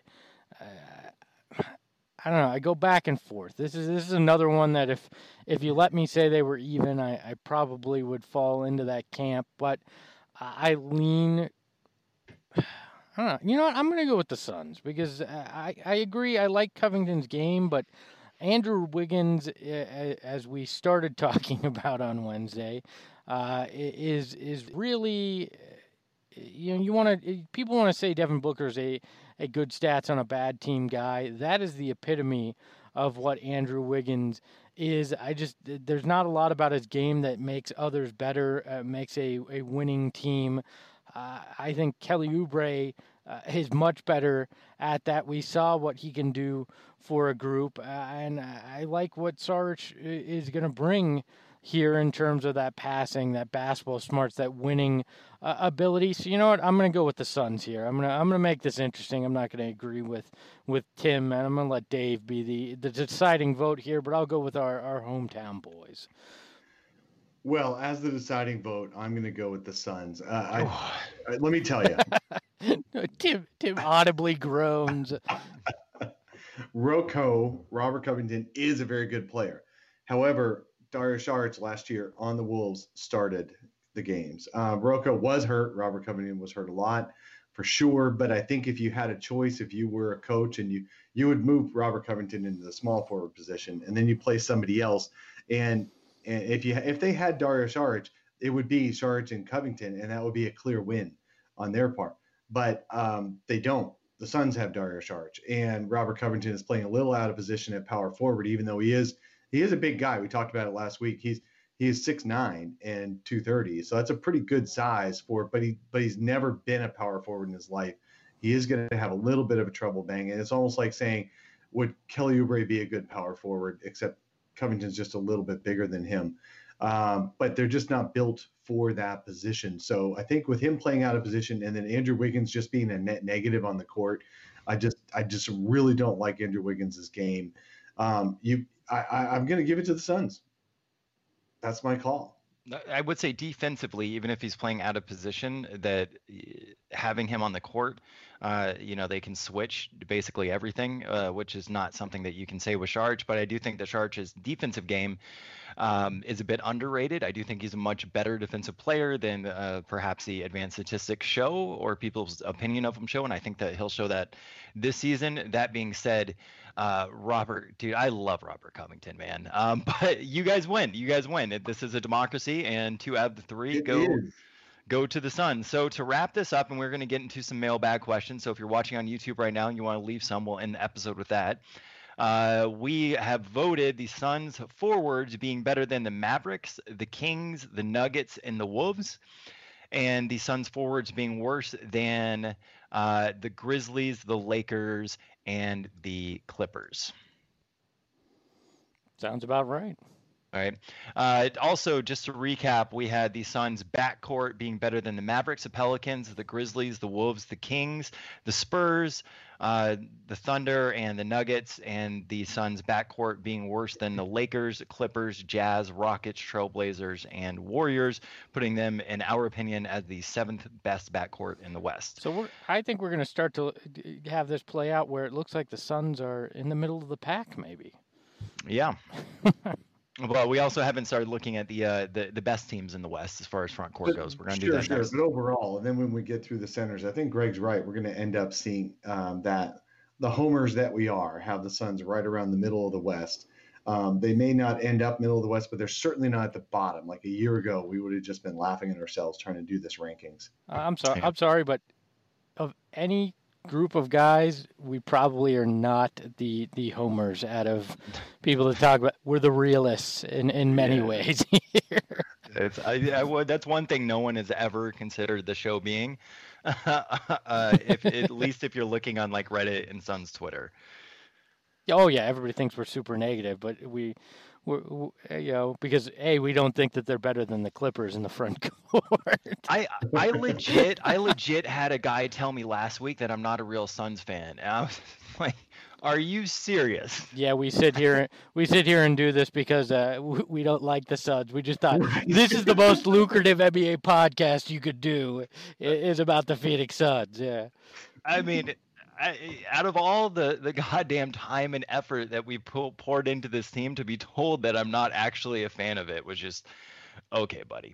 uh, I don't know. I go back and forth. This is this is another one that if if you let me say they were even, I, I probably would fall into that camp. But I lean. I don't know. You know what? I'm going to go with the Suns because I I agree. I like Covington's game, but Andrew Wiggins, as we started talking about on Wednesday, uh, is is really, you know, you want to people want to say Devin Booker's a a good stats on a bad team guy. That is the epitome of what Andrew Wiggins is. I just there's not a lot about his game that makes others better, uh, makes a a winning team. Uh, I think Kelly Oubre uh, is much better at that. We saw what he can do for a group, uh, and I like what Saric is going to bring here in terms of that passing, that basketball smarts, that winning uh, ability. So you know what? I'm going to go with the Suns here. I'm going to I'm going to make this interesting. I'm not going to agree with with Tim, and I'm going to let Dave be the the deciding vote here. But I'll go with our our hometown boys. Well, as the deciding vote, I'm going to go with the Suns. Uh, I, I, let me tell you. Tim, Tim audibly groans. Rocco, Robert Covington, is a very good player. However, Dario Saric last year on the Wolves started the games. Uh, Rocco was hurt. Robert Covington was hurt a lot, for sure. But I think if you had a choice, if you were a coach and you you would move Robert Covington into the small forward position, and then you play somebody else, and And if you if they had Dario Saric, it would be Saric and Covington, and that would be a clear win on their part. But um, they don't. The Suns have Dario Saric, and Robert Covington is playing a little out of position at power forward, even though he is he is a big guy. We talked about it last week. He's he is six nine and two thirty, so that's a pretty good size for. But he but he's never been a power forward in his life. He is going to have a little bit of a trouble banging. It's almost like saying, would Kelly Oubre be a good power forward? Except Covington's just a little bit bigger than him. Um, but they're just not built for that position. So I think with him playing out of position and then Andrew Wiggins just being a net negative on the court, I just I just really don't like Andrew Wiggins' game. Um, you, I, I, I'm going to give it to the Suns. That's my call. I would say defensively, even if he's playing out of position, that having him on the court, uh, you know, they can switch basically everything, uh, which is not something that you can say with Saric. But I do think that Saric's defensive game um, is a bit underrated. I do think he's a much better defensive player than uh, perhaps the advanced statistics show or people's opinion of him show. And I think that he'll show that this season. That being said, uh, Robert, dude, I love Robert Covington, man. Um, but you guys win. You guys win. This is a democracy, and two out of the three It go. is. Go to the Suns. So to wrap this up, and we're going to get into some mailbag questions. So if you're watching on YouTube right now and you want to leave some, we'll end the episode with that. Uh, we have voted the Suns forwards being better than the Mavericks, the Kings, the Nuggets, and the Wolves, and the Suns forwards being worse than uh, the Grizzlies, the Lakers, and the Clippers. Sounds about right. All right. Uh, also, just to recap, we had the Suns' backcourt being better than the Mavericks, the Pelicans, the Grizzlies, the Wolves, the Kings, the Spurs, uh, the Thunder, and the Nuggets, and the Suns' backcourt being worse than the Lakers, Clippers, Jazz, Rockets, Trailblazers, and Warriors, putting them, in our opinion, as the seventh best backcourt in the West. So we're, I think we're going to start to have this play out where it looks like the Suns are in the middle of the pack, maybe. Yeah. Well, we also haven't started looking at the uh, the the best teams in the West as far as front court But, goes. We're going to sure, do that sure. next. But overall, and then when we get through the centers, I think Greg's right. We're going to end up seeing um, that the homers that we are have the Suns right around the middle of the West. Um, they may not end up middle of the West, but they're certainly not at the bottom. Like a year ago, we would have just been laughing at ourselves trying to do this rankings. Uh, I'm sorry. Yeah. I'm sorry, but of any group of guys, we probably are not the the homers out of people to talk about. We're the realists in, in many Yeah. ways. It's I, I would, that's one thing no one has ever considered the show being. uh, if at least if you're looking on like Reddit and Suns Twitter. Oh yeah, everybody thinks we're super negative, but we, we're, we, you know, because a we don't think that they're better than the Clippers in the front court. I I legit I legit had a guy tell me last week that I'm not a real Suns fan. And I was like, are you serious? Yeah, we sit here we sit here and do this because uh, w- we don't like the Suns. We just thought this is the most lucrative N B A podcast you could do i- is about the Phoenix Suns. Yeah. I mean, I, out of all the, the goddamn time and effort that we pull, poured into this team, to be told that I'm not actually a fan of it was just, okay, buddy.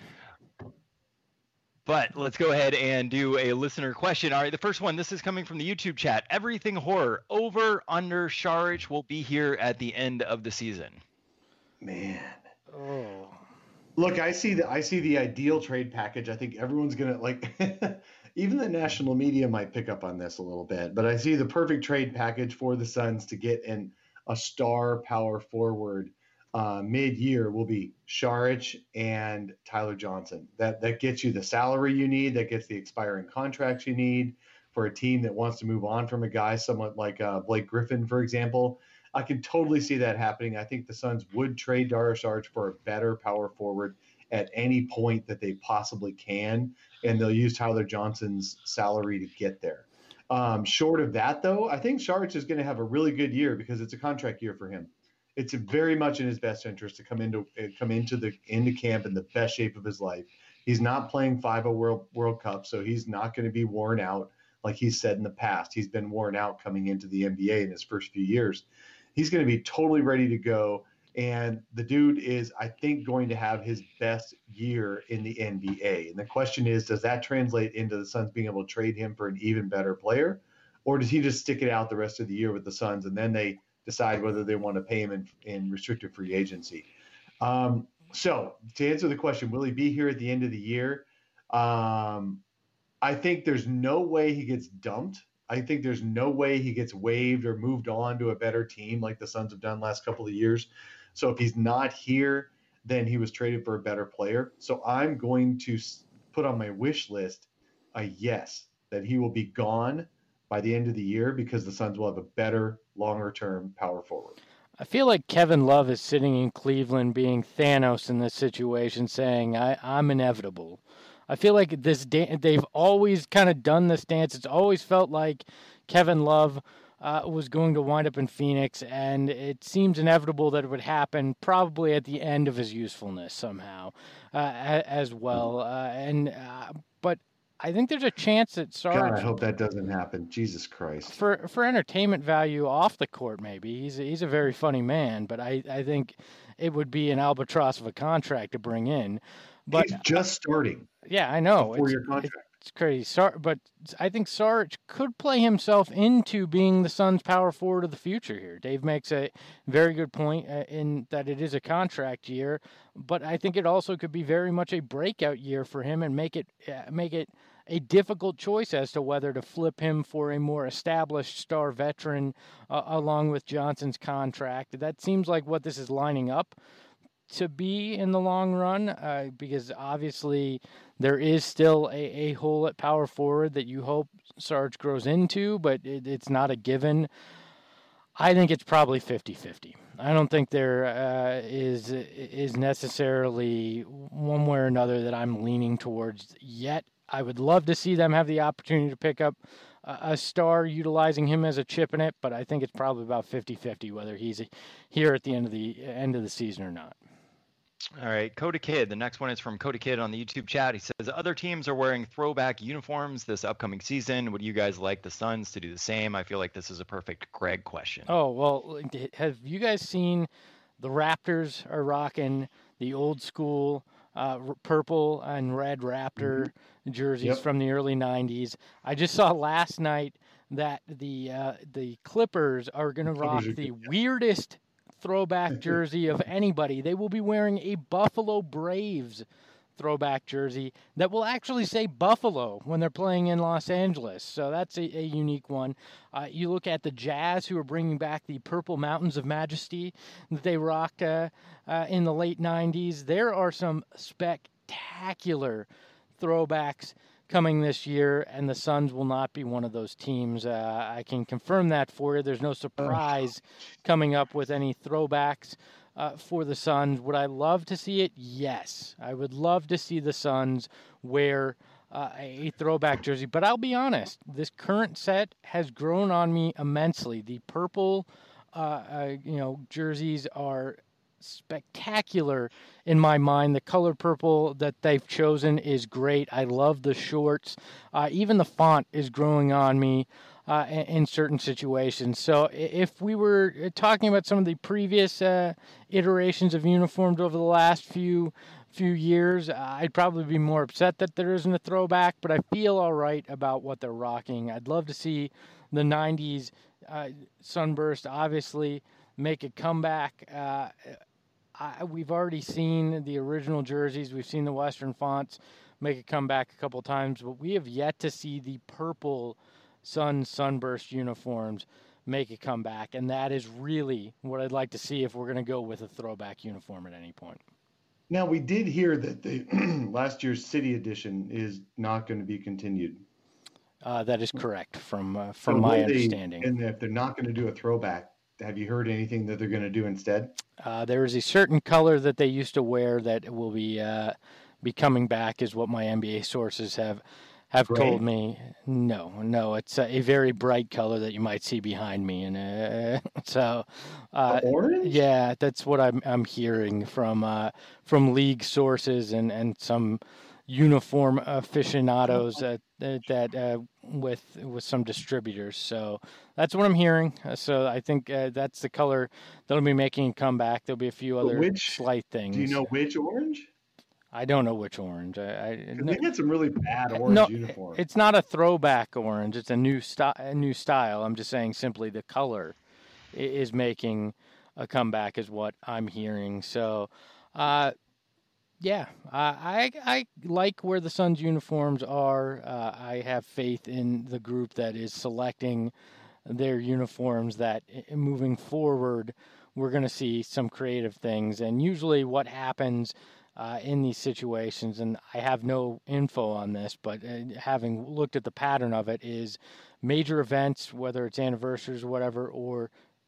But let's go ahead and do a listener question. All right, the first one, this is coming from the YouTube chat. Everything Horror, over, under, Saric will be here at the end of the season. Man. Oh. Look, I see the I see the ideal trade package. I think everyone's gonna like even the national media might pick up on this a little bit, but I see the perfect trade package for the Suns to get in a star power forward uh, mid-year will be Saric and Tyler Johnson. That that gets you the salary you need, that gets the expiring contracts you need for a team that wants to move on from a guy somewhat like uh, Blake Griffin, for example. I can totally see that happening. I think the Suns would trade Dario Saric for a better power forward at any point that they possibly can, and they'll use Tyler Johnson's salary to get there. Um, short of that, though, I think Saric is going to have a really good year because it's a contract year for him. It's very much in his best interest to come into come into the into camp in the best shape of his life. He's not playing five oh World World Cup, so he's not going to be worn out like he's said in the past. He's been worn out coming into the N B A in his first few years. He's going to be totally ready to go. And the dude is, I think, going to have his best year in the N B A. And the question is, does that translate into the Suns being able to trade him for an even better player? Or does he just stick it out the rest of the year with the Suns and then they decide whether they want to pay him in, in restricted free agency? Um, so to answer the question, will he be here at the end of the year? Um, I think there's no way he gets dumped. I think there's no way he gets waived or moved on to a better team like the Suns have done last couple of years. So if he's not here, then he was traded for a better player. So I'm going to put on my wish list a yes, that he will be gone by the end of the year because the Suns will have a better, longer-term power forward. I feel like Kevin Love is sitting in Cleveland being Thanos in this situation saying, I, I'm inevitable. I feel like this da- they've always kind of done this dance. It's always felt like Kevin Love uh, was going to wind up in Phoenix, and it seems inevitable that it would happen probably at the end of his usefulness somehow uh, as well. Uh, and uh, but I think there's a chance that Sarge. God, I hope that doesn't happen. Jesus Christ. For for entertainment value off the court, maybe he's a, he's a very funny man, but I, I think it would be an albatross of a contract to bring in. But he's just starting. Yeah, I know. A four-year contract. It's crazy. Sar- but I think Sarge could play himself into being the Suns' power forward of the future here. Dave makes a very good point uh, in that it is a contract year, but I think it also could be very much a breakout year for him and make it uh, make it a difficult choice as to whether to flip him for a more established star veteran uh, along with Johnson's contract. That seems like what this is lining up to be in the long run, uh, because obviously there is still a, a hole at power forward that you hope Sarge grows into, but it, it's not a given. I think it's probably fifty-fifty. I don't think there uh, is is necessarily one way or another that I'm leaning towards yet. I would love to see them have the opportunity to pick up a, a star utilizing him as a chip in it, but I think it's probably about fifty-fifty whether he's here at the end of the end of the season or not. All right, Coda Kid. The next one is from Coda Kid on the YouTube chat. He says, other teams are wearing throwback uniforms this upcoming season. Would you guys like the Suns to do the same? I feel like this is a perfect Greg question. Oh, well, have you guys seen The Raptors are rocking the old school uh, r- purple and red Raptor mm-hmm. jerseys yep. from the early nineties. I just saw last night that the uh, the Clippers are going to rock the good. weirdest throwback jersey of anybody. They will be wearing a Buffalo Braves throwback jersey that will actually say Buffalo when they're playing in Los Angeles. So that's a, a unique one. Uh, you look at the Jazz, who are bringing back the Purple Mountains of Majesty that they rocked uh, uh, in the late nineties. There are some spectacular throwbacks coming this year, and the Suns will not be one of those teams. Uh, I can confirm that for you. There's no surprise coming up with any throwbacks uh, for the Suns. Would I love to see it? Yes. I would love to see the Suns wear uh, a throwback jersey. But I'll be honest, this current set has grown on me immensely. The purple uh, uh, you know, jerseys are spectacular in my mind. The color purple that they've chosen is great. I love the shorts. Uh, even the font is growing on me uh, in, in certain situations. So if we were talking about some of the previous uh, iterations of uniforms over the last few few years, I'd probably be more upset that there isn't a throwback, but I feel all right about what they're rocking. I'd love to see the nineties uh, Sunburst obviously make a comeback. Uh, I, we've already seen the original jerseys. We've seen the Western fonts make a comeback a couple times, but we have yet to see the purple Sun Sunburst uniforms make a comeback, and that is really what I'd like to see if we're going to go with a throwback uniform at any point. Now, we did hear that the last year's City Edition is not going to be continued. Uh, that is correct, from uh, from so my they, understanding. And if they're not going to do a throwback, have you heard anything that they're going to do instead? Uh, there is a certain color that they used to wear that will be uh, be coming back, is what my N B A sources have have Gray? told me. No, no, it's a, a very bright color that you might see behind me, and uh, so uh, orange. Yeah, that's what I'm I'm hearing from uh, from league sources and, and some uniform aficionados that that uh, with with some distributors. So that's what I'm hearing. So I think uh, that's the color that'll be making a comeback. There'll be a few other which, slight things. Do you know which orange? I don't know which orange. I, I no, they had some really bad orange no, uniforms. It's not a throwback orange. It's a new style. A new style. I'm just saying simply the color is making a comeback, is what I'm hearing. So. Uh, Yeah, uh, I I like where the Suns uniforms are. Uh, I have faith in the group that is selecting their uniforms, that moving forward, we're going to see some creative things. And usually what happens uh, in these situations, and I have no info on this, but uh, having looked at the pattern of it, is major events, whether it's anniversaries or whatever, or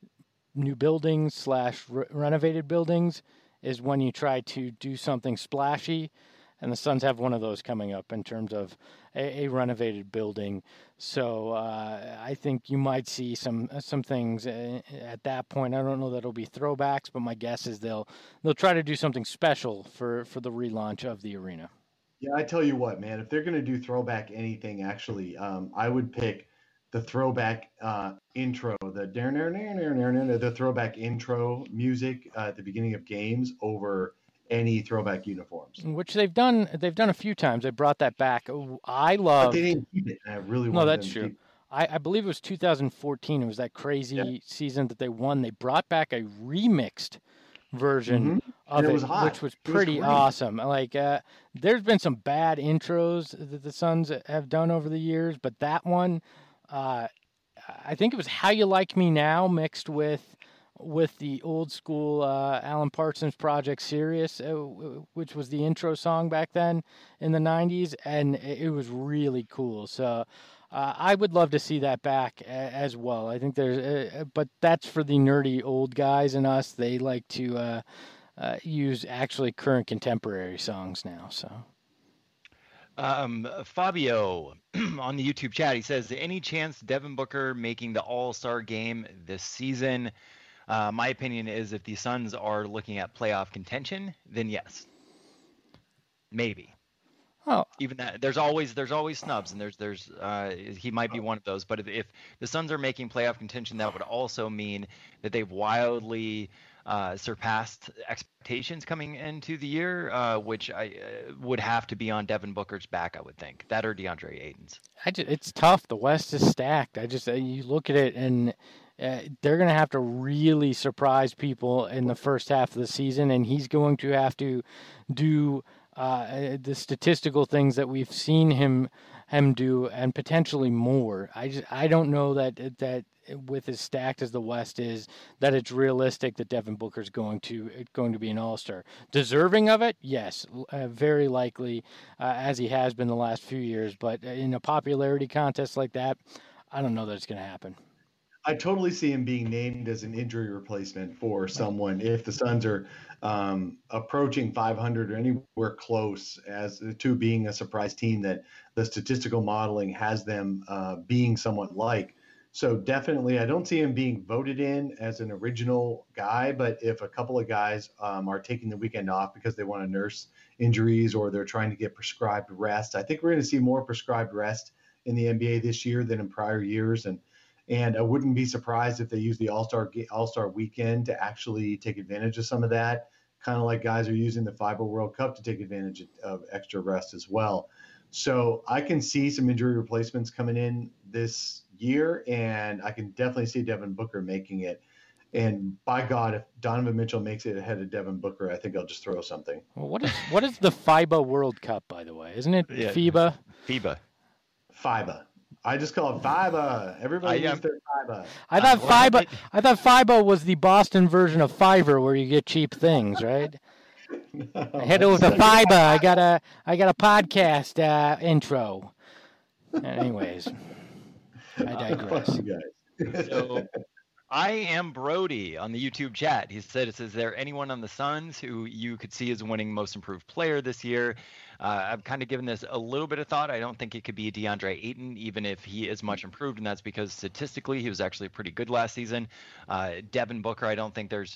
new buildings slash re- renovated buildings, is when you try to do something splashy, and the Suns have one of those coming up in terms of a, a renovated building. So uh, I think you might see some some things at that point. I don't know that it'll be throwbacks, but my guess is they'll they'll try to do something special for, for the relaunch of the arena. Yeah, I tell you what, man, if they're going to do throwback anything, actually, um, I would pick the throwback uh, intro, the the throwback intro music uh, at the beginning of games over any throwback uniforms. Which they've done. They've done a few times. They brought that back. I love. But they didn't keep it. I really no, that's them true. To keep... I, I believe it was two thousand fourteen. It was that crazy yeah. season that they won. They brought back a remixed version mm-hmm. of it, it, was hot. which was pretty was awesome. Like, uh, there's been some bad intros that the Suns have done over the years, but that one. Uh, I think it was How You Like Me Now mixed with with the old school uh, Alan Parsons Project Sirius, uh, which was the intro song back then in the nineties, and it was really cool. So uh, I would love to see that back a- as well. I think there's, uh, but that's for the nerdy old guys and us. They like to uh, uh, use actually current contemporary songs now. So. Um, Fabio on the YouTube chat, he says, any chance Devin Booker making the All-Star game this season? Uh, my opinion is if the Suns are looking at playoff contention, then yes, maybe. Oh, even that there's always there's always snubs, and there's there's uh, he might be one of those. But if, if the Suns are making playoff contention, that would also mean that they've wildly uh, surpassed expectations coming into the year, uh, which I uh, would have to be on Devin Booker's back, I would think. That or DeAndre Ayton's. I just, it's tough. The West is stacked. I just, you look at it and uh, they're going to have to really surprise people in the first half of the season, and he's going to have to do uh, the statistical things that we've seen him him do, and potentially more. I just, I don't know that that with as stacked as the West is, that it's realistic that Devin Booker's going to going to be an All-Star. Deserving of it, yes, uh, very likely, uh, as he has been the last few years. But in a popularity contest like that, I don't know that it's going to happen. I totally see him being named as an injury replacement for someone if the Suns are um, approaching five hundred or anywhere close as to being a surprise team that the statistical modeling has them uh, being somewhat like. So definitely, I don't see him being voted in as an original guy, but if a couple of guys um, are taking the weekend off because they want to nurse injuries or they're trying to get prescribed rest, I think we're going to see more prescribed rest in the N B A this year than in prior years. And And I wouldn't be surprised if they use the All-Star All-Star weekend to actually take advantage of some of that, kind of like guys are using the FIBA World Cup to take advantage of extra rest as well. So I can see some injury replacements coming in this year, and I can definitely see Devin Booker making it. And by God, if Donovan Mitchell makes it ahead of Devin Booker, I think I'll just throw something. Well, what is what is the FIBA World Cup, by the way? Isn't it Yeah. FIBA? FIBA. FIBA. I just call it FIBA. Everybody I, uses their FIBA. I thought Uh, well, FIBA. it- I thought FIBA was the Boston version of Fiverr, where you get cheap things, right? No, I hit it with a that's- FIBA. I got a I got a podcast uh, intro. Anyways, I digress. Fuck you guys. So I am Brody on the YouTube chat. He said, is there anyone on the Suns who you could see as winning most improved player this year? Uh, I've kind of given this a little bit of thought. I don't think it could be DeAndre Ayton, even if he is much improved, and that's because statistically he was actually pretty good last season. Uh, Devin Booker, I don't think there's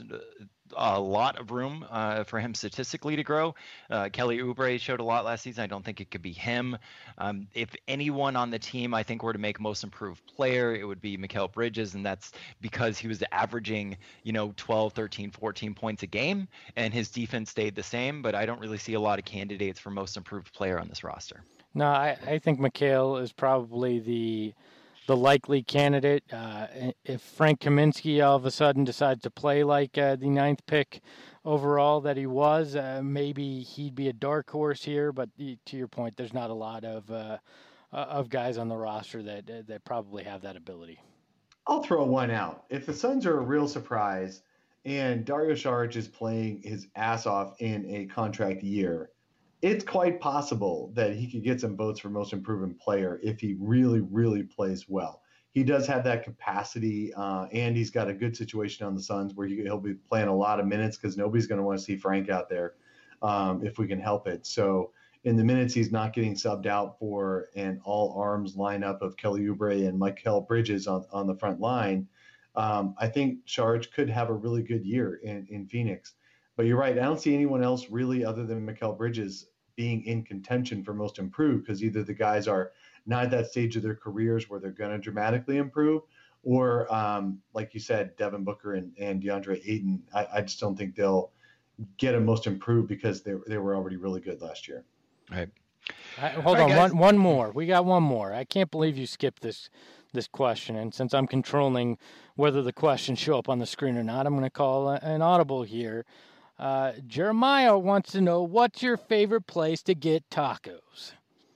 a lot of room uh, for him statistically to grow. Uh, Kelly Oubre showed a lot last season. I don't think it could be him. Um, if anyone on the team I think were to make most improved player, it would be Mikal Bridges, and that's because he was averaging, you know, twelve, thirteen, fourteen points a game, and his defense stayed the same, but I don't really see a lot of candidates for most improved player on this roster. No, I, I think Mikal is probably the the likely candidate. Uh, if Frank Kaminsky all of a sudden decides to play like uh, the ninth pick overall that he was, uh, maybe he'd be a dark horse here. But to your point, there's not a lot of uh, of guys on the roster that that probably have that ability. I'll throw one out. If the Suns are a real surprise and Dario Saric is playing his ass off in a contract year, it's quite possible that he could get some votes for most improved player if he really, really plays well. He does have that capacity, uh, and he's got a good situation on the Suns where he, he'll be playing a lot of minutes because nobody's going to want to see Frank out there um, if we can help it. So in the minutes he's not getting subbed out for an all-arms lineup of Kelly Oubre and Mikal Bridges on, on the front line, um, I think Saric could have a really good year in, in Phoenix. But you're right. I don't see anyone else really other than Mikal Bridges being in contention for most improved because either the guys are not at that stage of their careers where they're going to dramatically improve or, um, like you said, Devin Booker and, and DeAndre Ayton. I, I just don't think they'll get a most improved because they, they were already really good last year. Right. I, hold All on, right, guys. one one more. We got one more. I can't believe you skipped this this question, and since I'm controlling whether the questions show up on the screen or not, I'm going to call a, an audible here. Uh, Jeremiah wants to know, what's your favorite place to get tacos?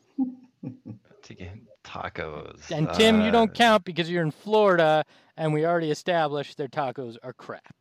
To get tacos. And Tim, Uh, you don't count because you're in Florida, and we already established their tacos are crap.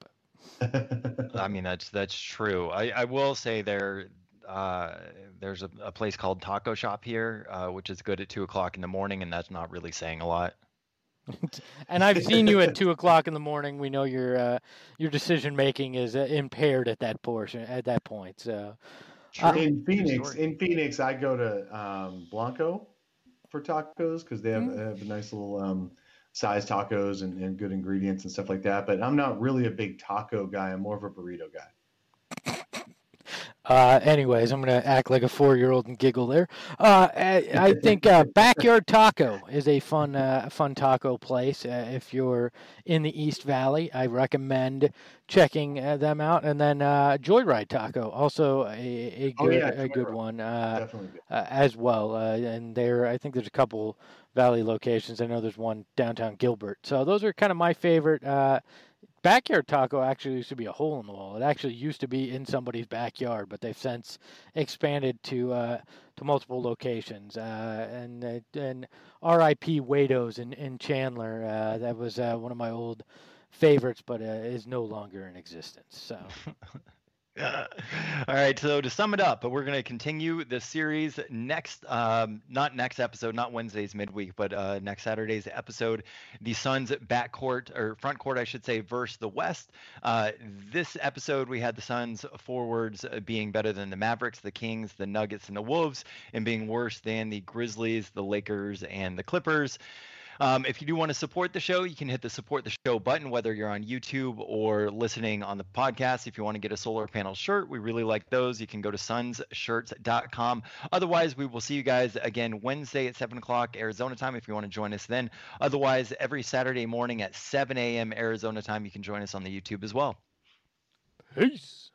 I mean, that's that's true. I, I will say there uh, there's a, a place called Taco Shop here, uh, which is good at two o'clock in the morning, and that's not really saying a lot. And I've seen you at two o'clock in the morning. We know your uh, your decision making is uh, impaired at that portion at that point. So uh, in Phoenix, story. in Phoenix, I go to um, Blanco for tacos because they have, Mm. they have a nice little um, size tacos and, and good ingredients and stuff like that. But I'm not really a big taco guy. I'm more of a burrito guy. Uh, anyways, I'm going to act like a four-year-old and giggle there. Uh, I, I think uh, Backyard Taco is a fun, uh, fun taco place. Uh, if you're in the East Valley, I recommend checking uh, them out. And then uh, Joyride Taco, also a, a good, Oh, yeah, a good Joyride. one uh, Definitely good. uh, as well. Uh, and there, I think there's a couple Valley locations. I know there's one downtown Gilbert. So those are kind of my favorite. Uh, Backyard Taco actually used to be a hole in the wall. It actually used to be in somebody's backyard, but they've since expanded to uh, to multiple locations. Uh, and uh, and R I P Wado's in in Chandler. Uh, that was uh, one of my old favorites, but uh, is no longer in existence. So. All right, so to sum it up, we're going to continue the series next, um, not next episode, not Wednesday's midweek, but uh, next Saturday's episode, the Suns backcourt, or front court, I should say, versus the West. Uh, this episode, we had the Suns forwards being better than the Mavericks, the Kings, the Nuggets, and the Wolves, and being worse than the Grizzlies, the Lakers, and the Clippers. Um, if you do want to support the show, you can hit the support the show button, whether you're on YouTube or listening on the podcast. If you want to get a solar panel shirt, we really like those. You can go to suns shirts dot com. Otherwise, we will see you guys again Wednesday at seven o'clock Arizona time if you want to join us then. Otherwise, every Saturday morning at seven a.m. Arizona time, you can join us on the YouTube as well. Peace.